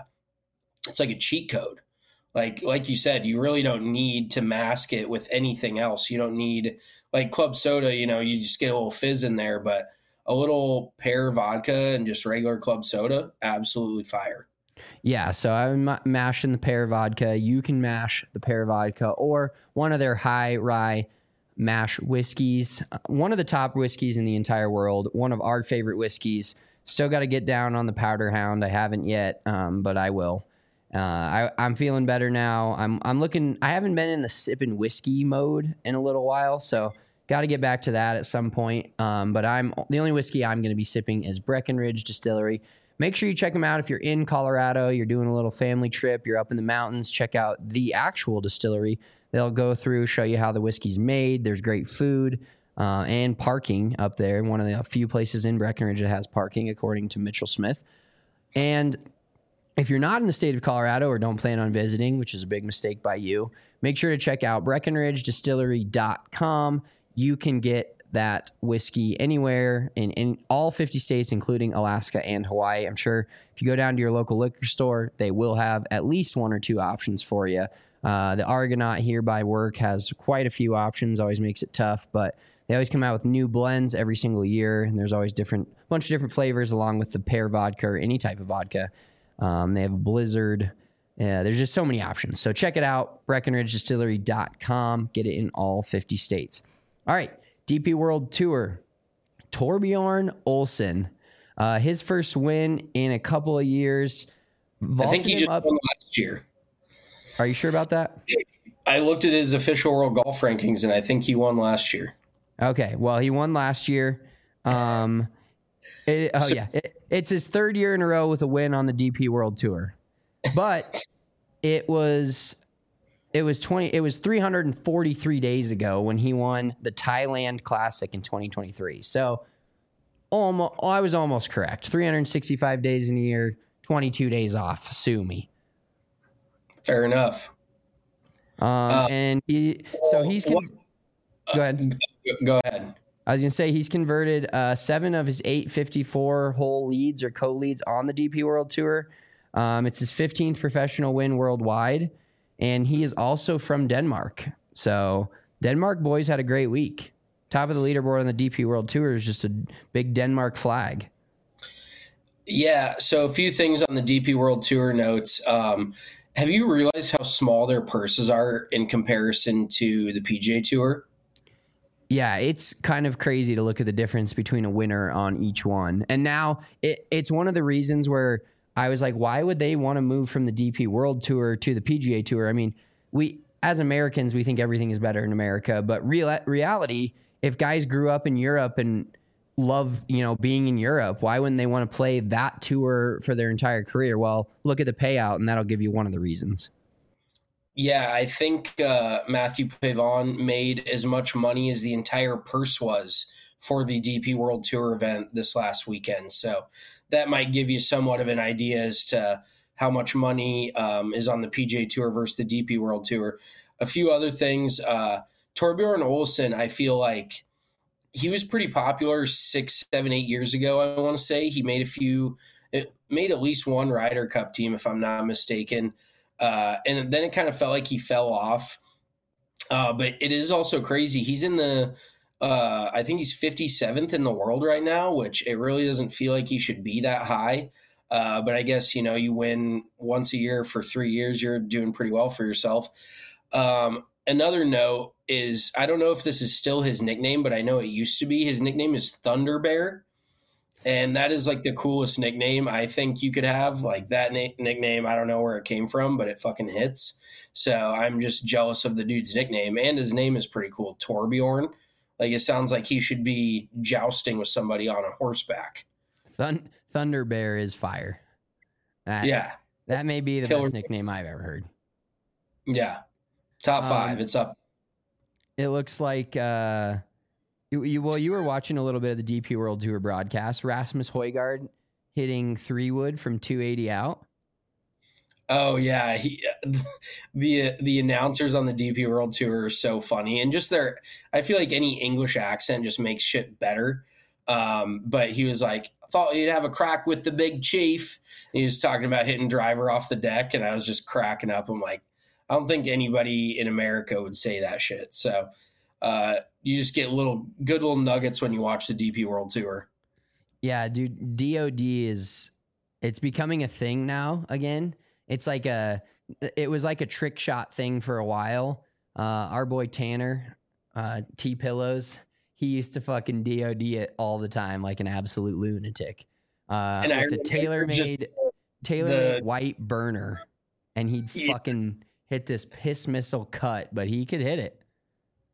cheat code. Like you said, you really don't need to mask it with anything else. You don't need, like club soda, you just get a little fizz in there, but a little pear vodka and just regular club soda, absolutely fire. Yeah, so I'm mashing the pear vodka. You can mash the pear vodka or one of their high rye mash whiskeys. One of the top whiskeys in the entire world. One of our favorite whiskeys. Still got to get down on the Powder Hound. I haven't yet, but I will. I'm feeling better now. I'm looking. I haven't been in the sipping whiskey mode in a little while, so got to get back to that at some point. But the only whiskey I'm going to be sipping is Breckenridge Distillery. Make sure you check them out if you're in Colorado, you're doing a little family trip, you're up in the mountains, check out the actual distillery. They'll go through, show you how the whiskey's made. There's great food and parking up there. One of the few places in Breckenridge that has parking, according to Mitchell Smith. And if you're not in the state of Colorado or don't plan on visiting, which is a big mistake by you, make sure to check out BreckenridgeDistillery.com. You can get that whiskey anywhere in all 50 states, including Alaska and Hawaii. I'm sure if you go down to your local liquor store, they will have at least one or two options for you. The Argonaut here by work has quite a few options, always makes it tough, but they always come out with new blends every single year, and there's always bunch of different flavors along with the pear vodka or any type of vodka. They have a Blizzard. There's just so many options. So check it out, BreckenridgeDistillery.com. Get it in all 50 states. All right. DP World Tour, Torbjorn Olsen, his first win in a couple of years. I think he just won last year. Are you sure about that? I looked at his official world golf rankings, and I think he won last year. Okay, well, he won last year. It's his third year in a row with a win on the DP World Tour, but it was 343 days ago when he won the Thailand Classic in 2023. So I was almost correct. 365 days in a year, 22 days off. Sue me. Fair enough. Go ahead. Go ahead. I was going to say he's converted 7 of his 8 54-hole leads or co-leads on the DP World Tour. It's his 15th professional win worldwide. And he is also from Denmark. So Denmark boys had a great week. Top of the leaderboard on the DP World Tour is just a big Denmark flag. Yeah, so a few things on the DP World Tour notes. Have you realized how small their purses are in comparison to the PGA Tour? Yeah, it's kind of crazy to look at the difference between a winner on each one. And now it's one of the reasons where I was like, why would they want to move from the DP World Tour to the PGA Tour? I mean, we as Americans, we think everything is better in America, but reality, if guys grew up in Europe and love, being in Europe, why wouldn't they want to play that tour for their entire career? Well, look at the payout, and that'll give you one of the reasons. Yeah, I think Matthew Pavon made as much money as the entire purse was for the DP World Tour event this last weekend. So that might give you somewhat of an idea as to how much money is on the PGA Tour versus the DP World Tour. A few other things. Torbjorn Olsen, I feel like he was pretty popular 6, 7, 8 years ago, I want to say. He made made at least one Ryder Cup team, if I'm not mistaken. And then it kind of felt like he fell off. But it is also crazy. He's in I think he's 57th in the world right now, which it really doesn't feel like he should be that high. But I guess, you win once a year for 3 years, you're doing pretty well for yourself. Another note is, I don't know if this is still his nickname, but I know it used to be. His nickname is Thunder Bear. And that is like the coolest nickname I think you could have. Like that nickname, I don't know where it came from, but it fucking hits. So I'm just jealous of the dude's nickname. And his name is pretty cool, Torbjorn. Like it sounds like he should be jousting with somebody on a horseback. Thunder Bear is fire. That may be the best nickname I've ever heard. Yeah. Top 5. It's up. It looks like you were watching a little bit of the DP World Tour broadcast. Rasmus Højgaard hitting 3-wood from 280 out. Oh yeah, the announcers on the DP World Tour are so funny, and just I feel like any English accent just makes shit better. But he was like, I thought you'd have a crack with the big chief. And he was talking about hitting driver off the deck, and I was just cracking up. I'm like, I don't think anybody in America would say that shit. So you just get good little nuggets when you watch the DP World Tour. Yeah, dude, DOD it's becoming a thing now again. It's like it was like a trick shot thing for a while. Our boy Tanner, T-Pillows, he used to fucking DOD it all the time like an absolute lunatic. And with a tailor-made white burner, and he'd fucking hit this piss missile cut, but he could hit it.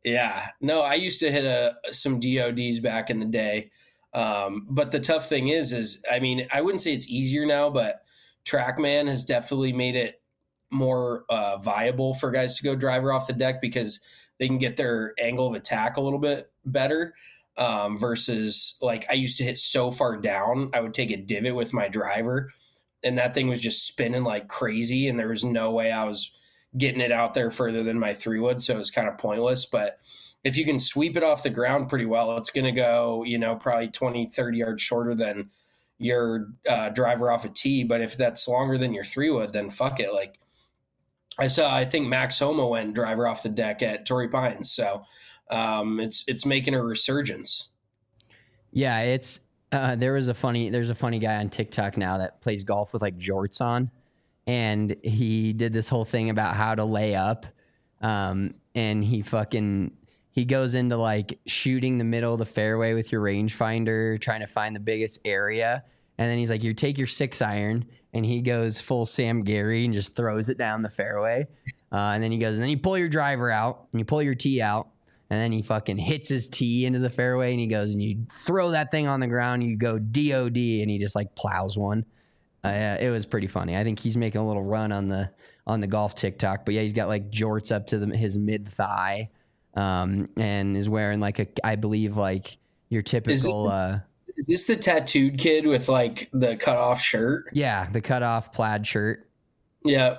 Yeah. No, I used to hit some DODs back in the day. But the tough thing is, I mean, I wouldn't say it's easier now, but TrackMan has definitely made it more viable for guys to go driver off the deck because they can get their angle of attack a little bit better. Versus like I used to hit so far down, I would take a divot with my driver and that thing was just spinning like crazy. And there was no way I was getting it out there further than my 3-wood. So it was kind of pointless. But if you can sweep it off the ground pretty well, it's going to go, probably 20, 30 yards shorter than your driver off a tee. But if that's longer than your 3-wood, then fuck it. Like I think Max Homa went driver off the deck at Torrey Pines. So it's making a resurgence. Yeah, it's there's a funny guy on TikTok now that plays golf with like jorts on, and he did this whole thing about how to lay up, and he goes into like shooting the middle of the fairway with your rangefinder, trying to find the biggest area, and then he's like, you take your 6-iron, and he goes full Sam Gary and just throws it down the fairway, and then he goes, and then you pull your driver out and you pull your tee out. And then he fucking hits his tee into the fairway and he goes, and you throw that thing on the ground, you go DOD, and he just like plows one. It was pretty funny. I think he's making a little run on the golf TikTok, but yeah, he's got like jorts up to his mid thigh, and is wearing like I believe like your typical. Is this the tattooed kid with like the cut off shirt? Yeah, the cut off plaid shirt. Yeah.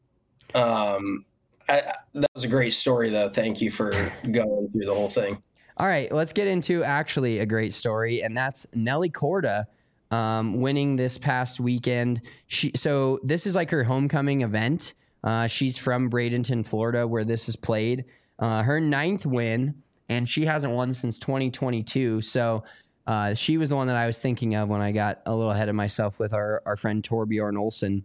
That was a great story, though. Thank you for going through the whole thing. All right, let's get into actually a great story, and that's Nelly Korda winning this past weekend. So this is like her homecoming event. She's from Bradenton, Florida, where this is played. Her 9th win, and she hasn't won since 2022. So she was the one that I was thinking of when I got a little ahead of myself with our friend Torbjorn Olsen.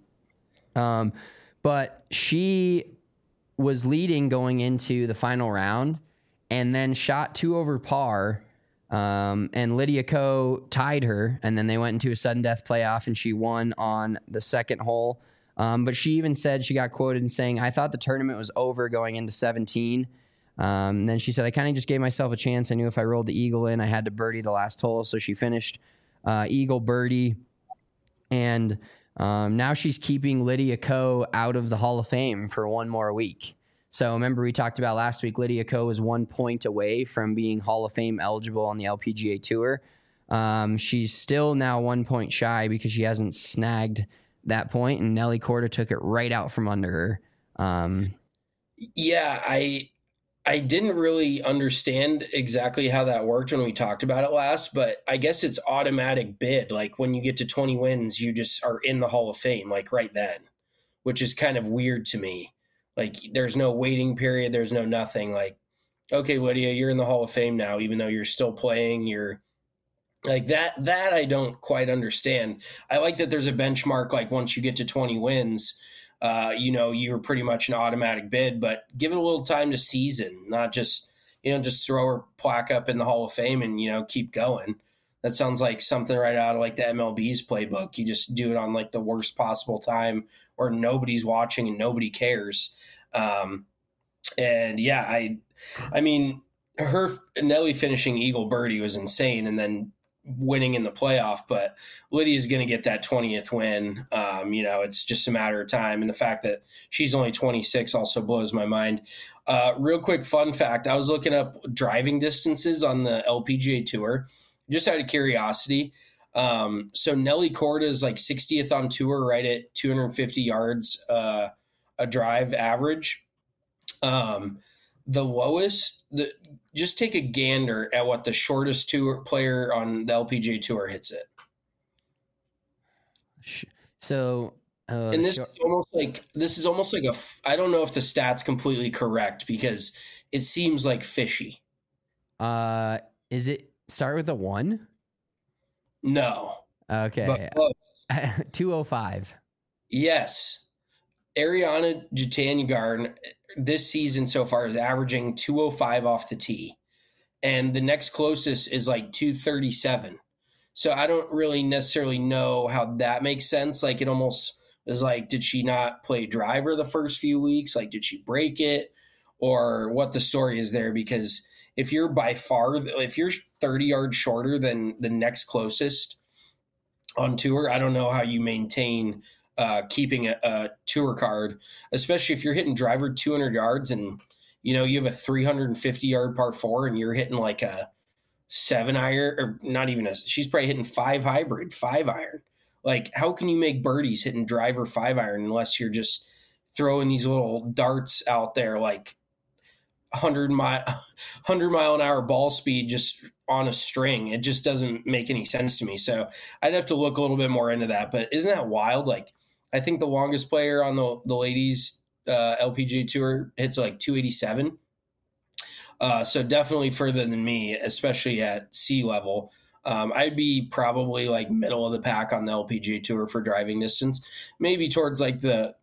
But she was leading going into the final round and then shot 2 over par. And Lydia Ko tied her, and then they went into a sudden death playoff and she won on the 2nd hole. But she even said, she got quoted in saying, I thought the tournament was over going into 17. Then she said, I kind of just gave myself a chance. I knew if I rolled the eagle in, I had to birdie the last hole. So she finished eagle birdie. And now she's keeping Lydia Ko out of the Hall of Fame for 1 more week. So remember we talked about last week, Lydia Ko was 1 point away from being Hall of Fame eligible on the LPGA Tour. She's still now 1 point shy because she hasn't snagged that point, and Nelly Korda took it right out from under her. Yeah, I didn't really understand exactly how that worked when we talked about it last, but I guess it's automatic bid. Like when you get to 20 wins, you just are in the Hall of Fame, like right then, which is kind of weird to me. Like there's no waiting period. There's no nothing. Like, okay, Lydia, you're in the Hall of Fame now, even though you're still playing. You're like that I don't quite understand. I like that there's a benchmark. Like once you get to 20 wins, you're pretty much an automatic bid, but give it a little time to season, not just throw her plaque up in the Hall of Fame and, keep going. That sounds like something right out of like the MLB's playbook. You just do it on like the worst possible time where nobody's watching and nobody cares. And yeah, I mean, her Nelly finishing eagle birdie was insane. And then winning in the playoff, but Lydia's going to get that 20th win. It's just a matter of time. And the fact that she's only 26 also blows my mind. Real quick fun fact. I was looking up driving distances on the LPGA Tour, just out of curiosity. So Nelly Korda is like 60th on tour, right at 250 yards, a drive average. The lowest, just take a gander at what the shortest tour player on the LPGA Tour hits it. So, and this is almost like I don't know if the stat's completely correct because it seems like fishy. Is it start with a 1? No. Okay. 205. Yes. Ariana Jutanugarn this season so far is averaging 205 off the tee. And the next closest is like 237. So I don't really necessarily know how that makes sense. Like it almost is like, did she not play driver the first few weeks? Like, did she break it? or what the story is there, because if you're 30 yards shorter than the next closest on tour, I don't know how you maintain keeping a tour card, especially if you're hitting driver 200 yards and, you have a 350 yard par 4 and you're hitting like a 7 iron, or not even she's probably hitting 5 iron. Like, how can you make birdies hitting driver 5 iron unless you're just throwing these little darts out there, like 100 mile an hour ball speed just on a string? It just doesn't make any sense to me. So I'd have to look a little bit more into that. But isn't that wild? Like, I think the longest player on the ladies LPGA tour hits like 287. So definitely further than me, especially at sea level. I'd be probably like middle of the pack on the LPGA tour for driving distance, maybe towards like the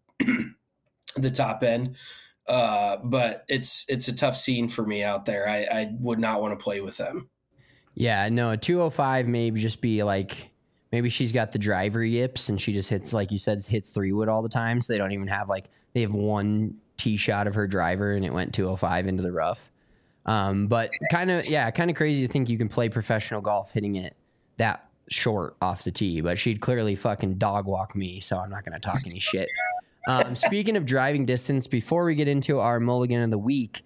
top end. But it's a tough scene for me out there. I would not want to play with them. Yeah, no, a 205 maybe just be like, maybe she's got the driver yips and she just hits, like you said, hits 3-wood all the time. So they don't even have they have one tee shot of her driver and it went 205 into the rough. But kind of crazy to think you can play professional golf hitting it that short off the tee, but she'd clearly fucking dog walk me. So I'm not going to talk any shit. Speaking of driving distance, before we get into our mulligan of the week,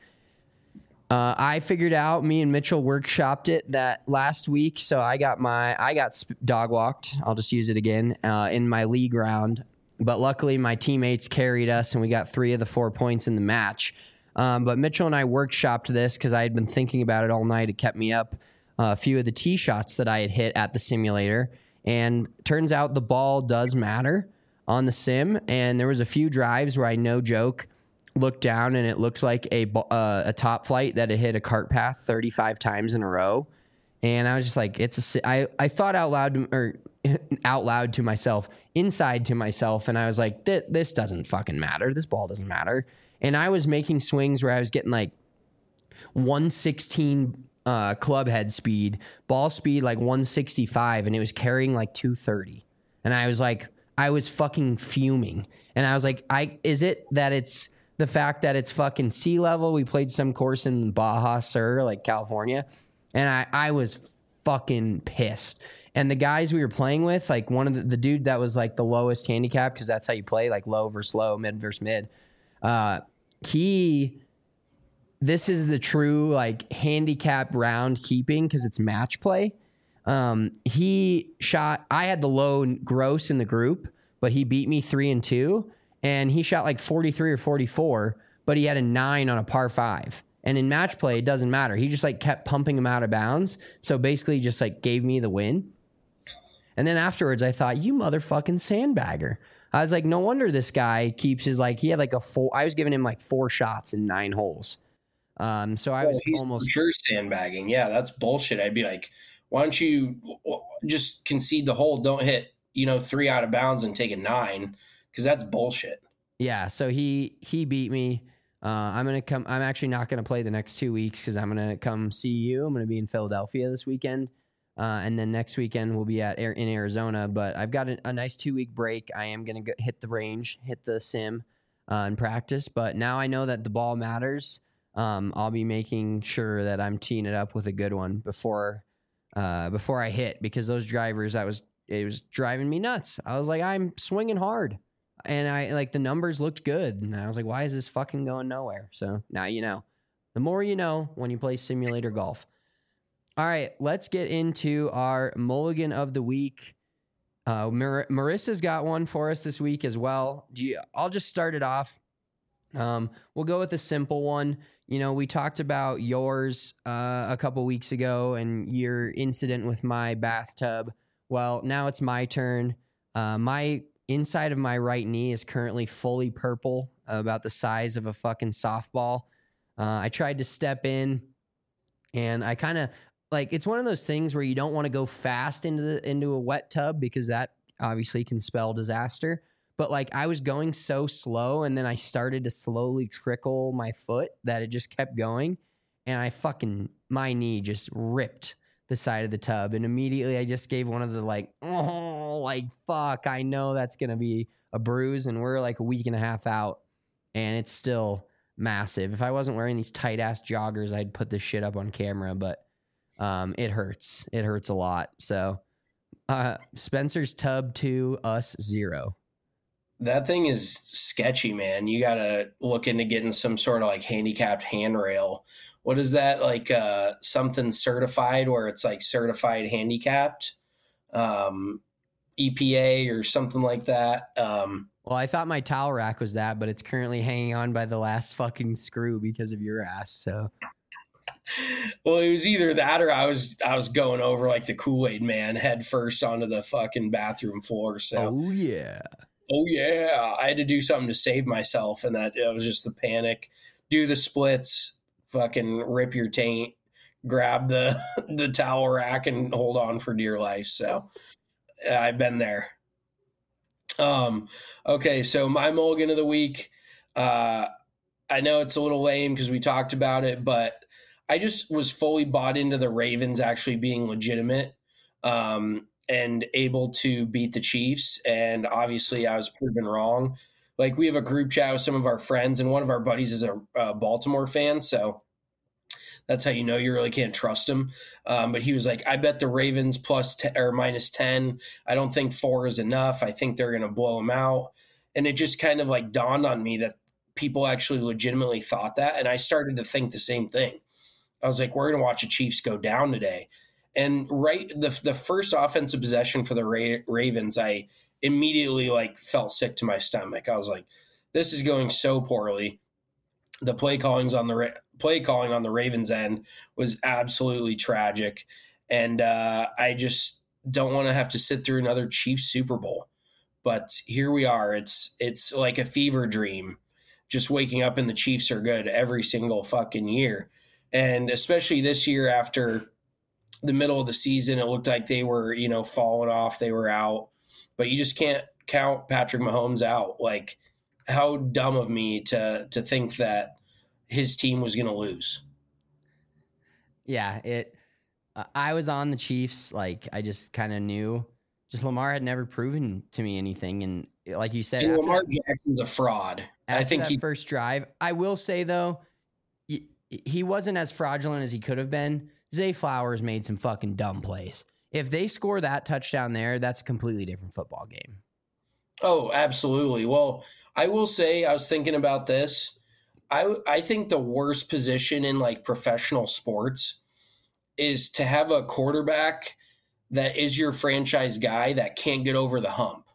I figured out, me and Mitchell workshopped it that last week. So I got dog walked. I'll just use it again, in my league round, but luckily my teammates carried us and we got 3 of the 4 points in the match. But Mitchell and I workshopped this because I had been thinking about it all night. It kept me up. A few of the tee shots that I had hit at the simulator, and turns out the ball does matter on the sim. And there was a few drives where I, no joke, looked down and it looked like a top flight that had hit a cart path 35 times in a row. And I was just like, I thought out loud to myself, inside to myself, and I was like, this doesn't fucking matter. This ball doesn't matter. And I was making swings where I was getting like 116 club head speed, ball speed like 165, and it was carrying like 230. And I was like, I was fucking fuming. And I was like, is it that it's the fact that it's fucking sea level? We played some course in Baja Sur, like California, and I was fucking pissed. And the guys we were playing with, like one of the dude that was like the lowest handicap, because that's how you play, like low versus low, mid versus mid. This is the true like handicap round keeping, because it's match play. He shot, I had the low gross in the group, but he beat me 3-2, and he shot like 43 or 44, but he had a 9 on a par 5. And in match play, it doesn't matter. He just like kept pumping him out of bounds. So basically just like gave me the win. And then afterwards I thought, you motherfucking sandbagger. I was like, no wonder this guy keeps his, like, he had like I was giving him like 4 shots in 9 holes. So I was almost sure sandbagging. Yeah, that's bullshit. I'd be like, why don't you just concede the hole? Don't hit, 3 out of bounds and take a 9, because that's bullshit. Yeah. So he beat me. I'm actually not going to play the next 2 weeks because I'm going to come see you. I'm going to be in Philadelphia this weekend. And then next weekend we'll be in Arizona, but I've got a nice 2-week break. I am going to hit the range, hit the sim, and practice. But now I know that the ball matters. I'll be making sure that I'm teeing it up with a good one before I hit, because those drivers, it was driving me nuts. I was like, I'm swinging hard, and I like the numbers looked good, and I was like, why is this fucking going nowhere? So now you know. The more you know when you play simulator golf. All right, let's get into our mulligan of the week. Marissa's got one for us this week as well. I'll just start it off. We'll go with a simple one. We talked about yours a couple weeks ago and your incident with my bathtub. Well, now it's my turn. My inside of my right knee is currently fully purple, about the size of a fucking softball. I tried to step in, and I kind of like, it's one of those things where you don't want to go fast into a wet tub, because that obviously can spell disaster. But like, I was going so slow, and then I started to slowly trickle my foot that it just kept going, and my knee just ripped the side of the tub, and immediately I just gave one of the like, oh, like, fuck, I know that's gonna be a bruise, and we're like a week and a half out, and it's still massive. If I wasn't wearing these tight ass joggers, I'd put this shit up on camera, but it hurts. It hurts a lot. So Spencer's tub 2, us 0. That thing is sketchy, man. You got to look into getting some sort of like handicapped handrail. What is that? Like something certified where it's like certified handicapped, EPA or something like that. Well, I thought my towel rack was that, but it's currently hanging on by the last fucking screw because of your ass. So, well, it was either that or I was going over like the Kool-Aid man head first onto the fucking bathroom floor. So, oh yeah, I had to do something to save myself, and that it was just the panic. Do the splits, fucking rip your taint, grab the towel rack, and hold on for dear life. So, I've been there. Okay, so my mulligan of the week, I know it's a little lame because we talked about it, but I just was fully bought into the Ravens actually being legitimate and able to beat the Chiefs, and obviously I was proven wrong. Like, we have a group chat with some of our friends, and one of our buddies is a Baltimore fan, so that's how you know you really can't trust him. But he was like, I bet the Ravens minus 10. I don't think 4 is enough. I think they're going to blow them out. And it just kind of like dawned on me that people actually legitimately thought that. And I started to think the same thing. I was like, we're going to watch the Chiefs go down today. And the first offensive possession for the Ravens, I immediately like felt sick to my stomach. I was like, this is going so poorly. The play calling on the Ravens end was absolutely tragic. And I just don't want to have to sit through another Chiefs Super Bowl. But here we are. It's like a fever dream, just waking up and the Chiefs are good every single fucking year. And especially this year after the middle of the season, it looked like they were, falling off. They were out. But you just can't count Patrick Mahomes out. Like, how dumb of me to think that his team was going to lose. Yeah, I was on the Chiefs. Like, I just kind of knew. Just Lamar had never proven to me anything, and like you said, Lamar Jackson's a fraud. I think that first drive. I will say though, he wasn't as fraudulent as he could have been. Zay Flowers made some fucking dumb plays. If they score that touchdown there, that's a completely different football game. Oh, absolutely. Well, I will say, I was thinking about this. I think the worst position in like professional sports is to have a quarterback that is your franchise guy that can't get over the hump,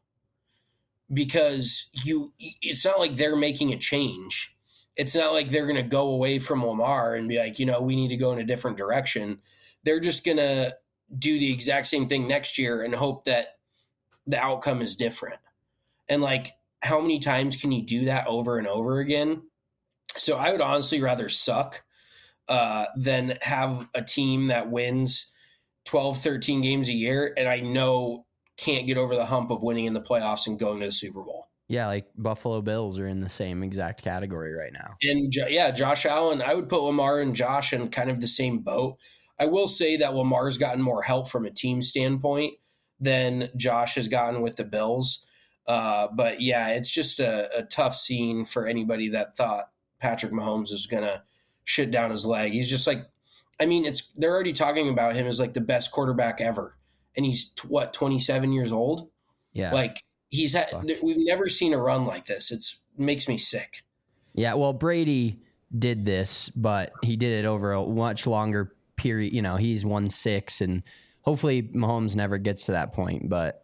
because it's not like they're making a change. It's not like they're going to go away from Lamar and be like, we need to go in a different direction. They're just going to do the exact same thing next year and hope that the outcome is different. And like, how many times can you do that over and over again? So I would honestly rather suck than have a team that wins 12, 13 games a year and I know can't get over the hump of winning in the playoffs and going to the Super Bowl. Yeah, like Buffalo Bills are in the same exact category right now. And Josh Allen, I would put Lamar and Josh in kind of the same boat. I will say that Lamar's gotten more help from a team standpoint than Josh has gotten with the Bills. But yeah, it's just a tough scene for anybody that thought Patrick Mahomes is going to shit down his leg. He's just like, they're already talking about him as like the best quarterback ever. And he's 27 years old. Yeah. Like we've never seen a run like this. It makes me sick. Yeah. Well, Brady did this, but he did it over a much longer period. He's won 6 and hopefully Mahomes never gets to that point. But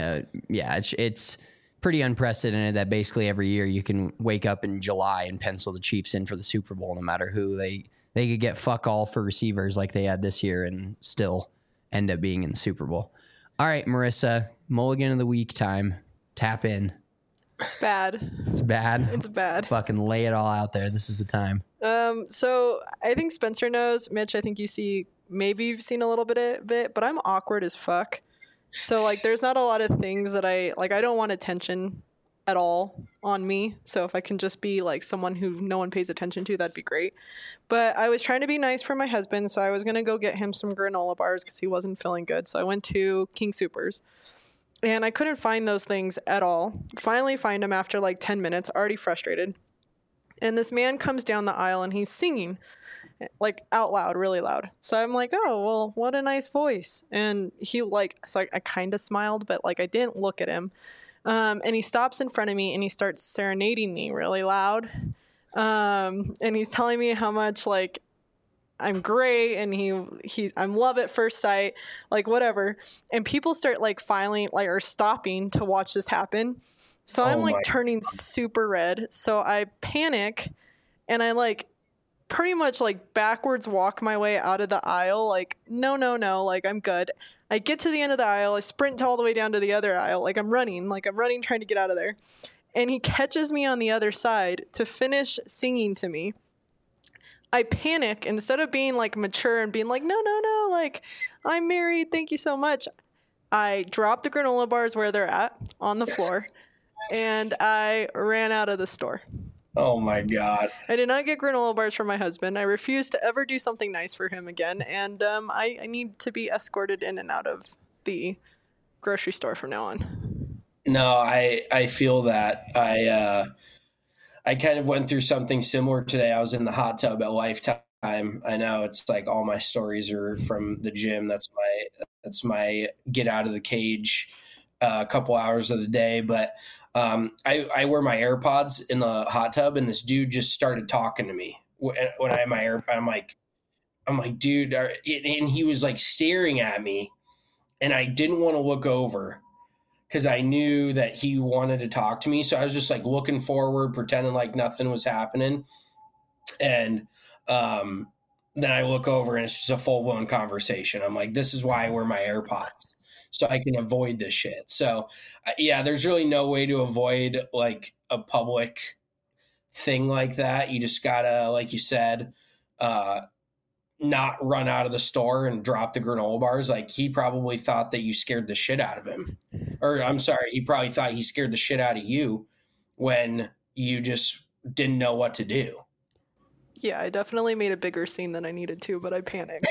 it's pretty unprecedented that basically every year you can wake up in July and pencil the Chiefs in for the Super Bowl, no matter who. They could get fuck all for receivers like they had this year and still end up being in the Super Bowl. All right, Marissa, mulligan of the week time. Tap in. It's bad. It's bad? It's bad. Fucking lay it all out there. This is the time. So I think Spencer knows. Mitch, I think maybe you've seen a little bit, but I'm awkward as fuck. So like there's not a lot of things that I don't want attention at all on me. So if I can just be like someone who no one pays attention to, that'd be great. But I was trying to be nice for my husband, so I was going to go get him some granola bars because he wasn't feeling good. So I went to King Soopers and I couldn't find those things at all. Finally find them after like 10 minutes, already frustrated. And this man comes down the aisle and he's singing like out loud, really loud. So I'm like, oh, well, what a nice voice. And he so I kind of smiled, but like I didn't look at him. And he stops in front of me and he starts serenading me really loud. And he's telling me how much like I'm great and I'm love at first sight, like whatever. And people start like filing like or stopping to watch this happen. So I'm like turning super red. So I panic and I like pretty much like backwards walk my way out of the aisle. Like, no, like I'm good. I get to the end of the aisle. I sprint all the way down to the other aisle. Like I'm running trying to get out of there. And he catches me on the other side to finish singing to me. I panic. Instead of being like mature and being like, no, like I'm married. Thank you so much. I drop the granola bars where they're at on the floor. And I ran out of the store. Oh my God. I did not get granola bars from my husband. I refuse to ever do something nice for him again. And I need to be escorted in and out of the grocery store from now on. No, I feel that. I kind of went through something similar today. I was in the hot tub at Lifetime. I know it's like all my stories are from the gym. That's my get out of the cage a couple hours of the day. But I wear my AirPods in the hot tub, and this dude just started talking to me when I have my AirPods. I'm like, dude, and he was like staring at me, and I didn't want to look over because I knew that he wanted to talk to me. So I was just like looking forward, pretending like nothing was happening. And then I look over and it's just a full blown conversation. I'm like, this is why I wear my AirPods, so I can avoid this shit. So yeah, there's really no way to avoid like a public thing like that. You just gotta, like you said, not run out of the store and drop the granola bars. Like he probably thought that you scared the shit out of him. Or I'm sorry, he probably thought he scared the shit out of you when you just didn't know what to do. Yeah, I definitely made a bigger scene than I needed to, but I panicked.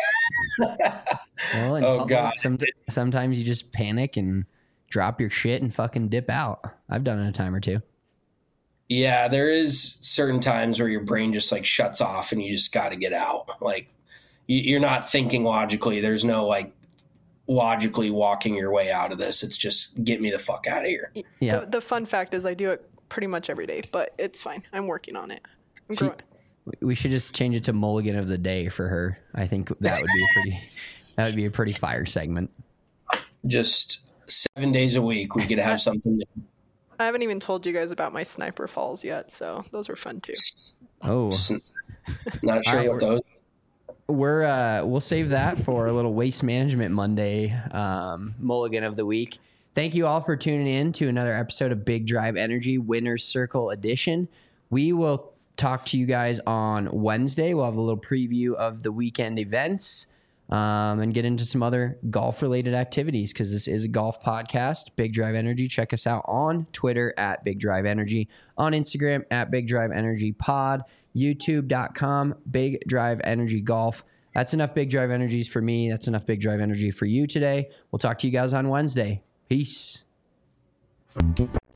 Well, in public, God. Sometimes you just panic and drop your shit and fucking dip out. I've done it a time or two. Yeah, there is certain times where your brain just like shuts off and you just got to get out. Like you're not thinking logically. There's no like logically walking your way out of this. It's just get me the fuck out of here. Yeah. The fun fact is I do it pretty much every day, but it's fine. I'm working on it. I'm growing. We should just change it to Mulligan of the Day for her. I think that would be a pretty fire segment. Just 7 days a week, we could have something new. I haven't even told you guys about my sniper falls yet, so those were fun too. Oh, not sure what those. We'll save that for a little Waste Management Monday Mulligan of the Week. Thank you all for tuning in to another episode of Big Drive Energy Winner's Circle Edition. We will talk to you guys on Wednesday. We'll have a little preview of the weekend events and get into some other golf-related activities because this is a golf podcast. Big Drive Energy. Check us out on Twitter at Big Drive Energy, on Instagram at Big Drive Energy Pod, YouTube.com, Big Drive Energy Golf. That's enough Big Drive Energies for me. That's enough Big Drive Energy for you today. We'll talk to you guys on Wednesday. Peace.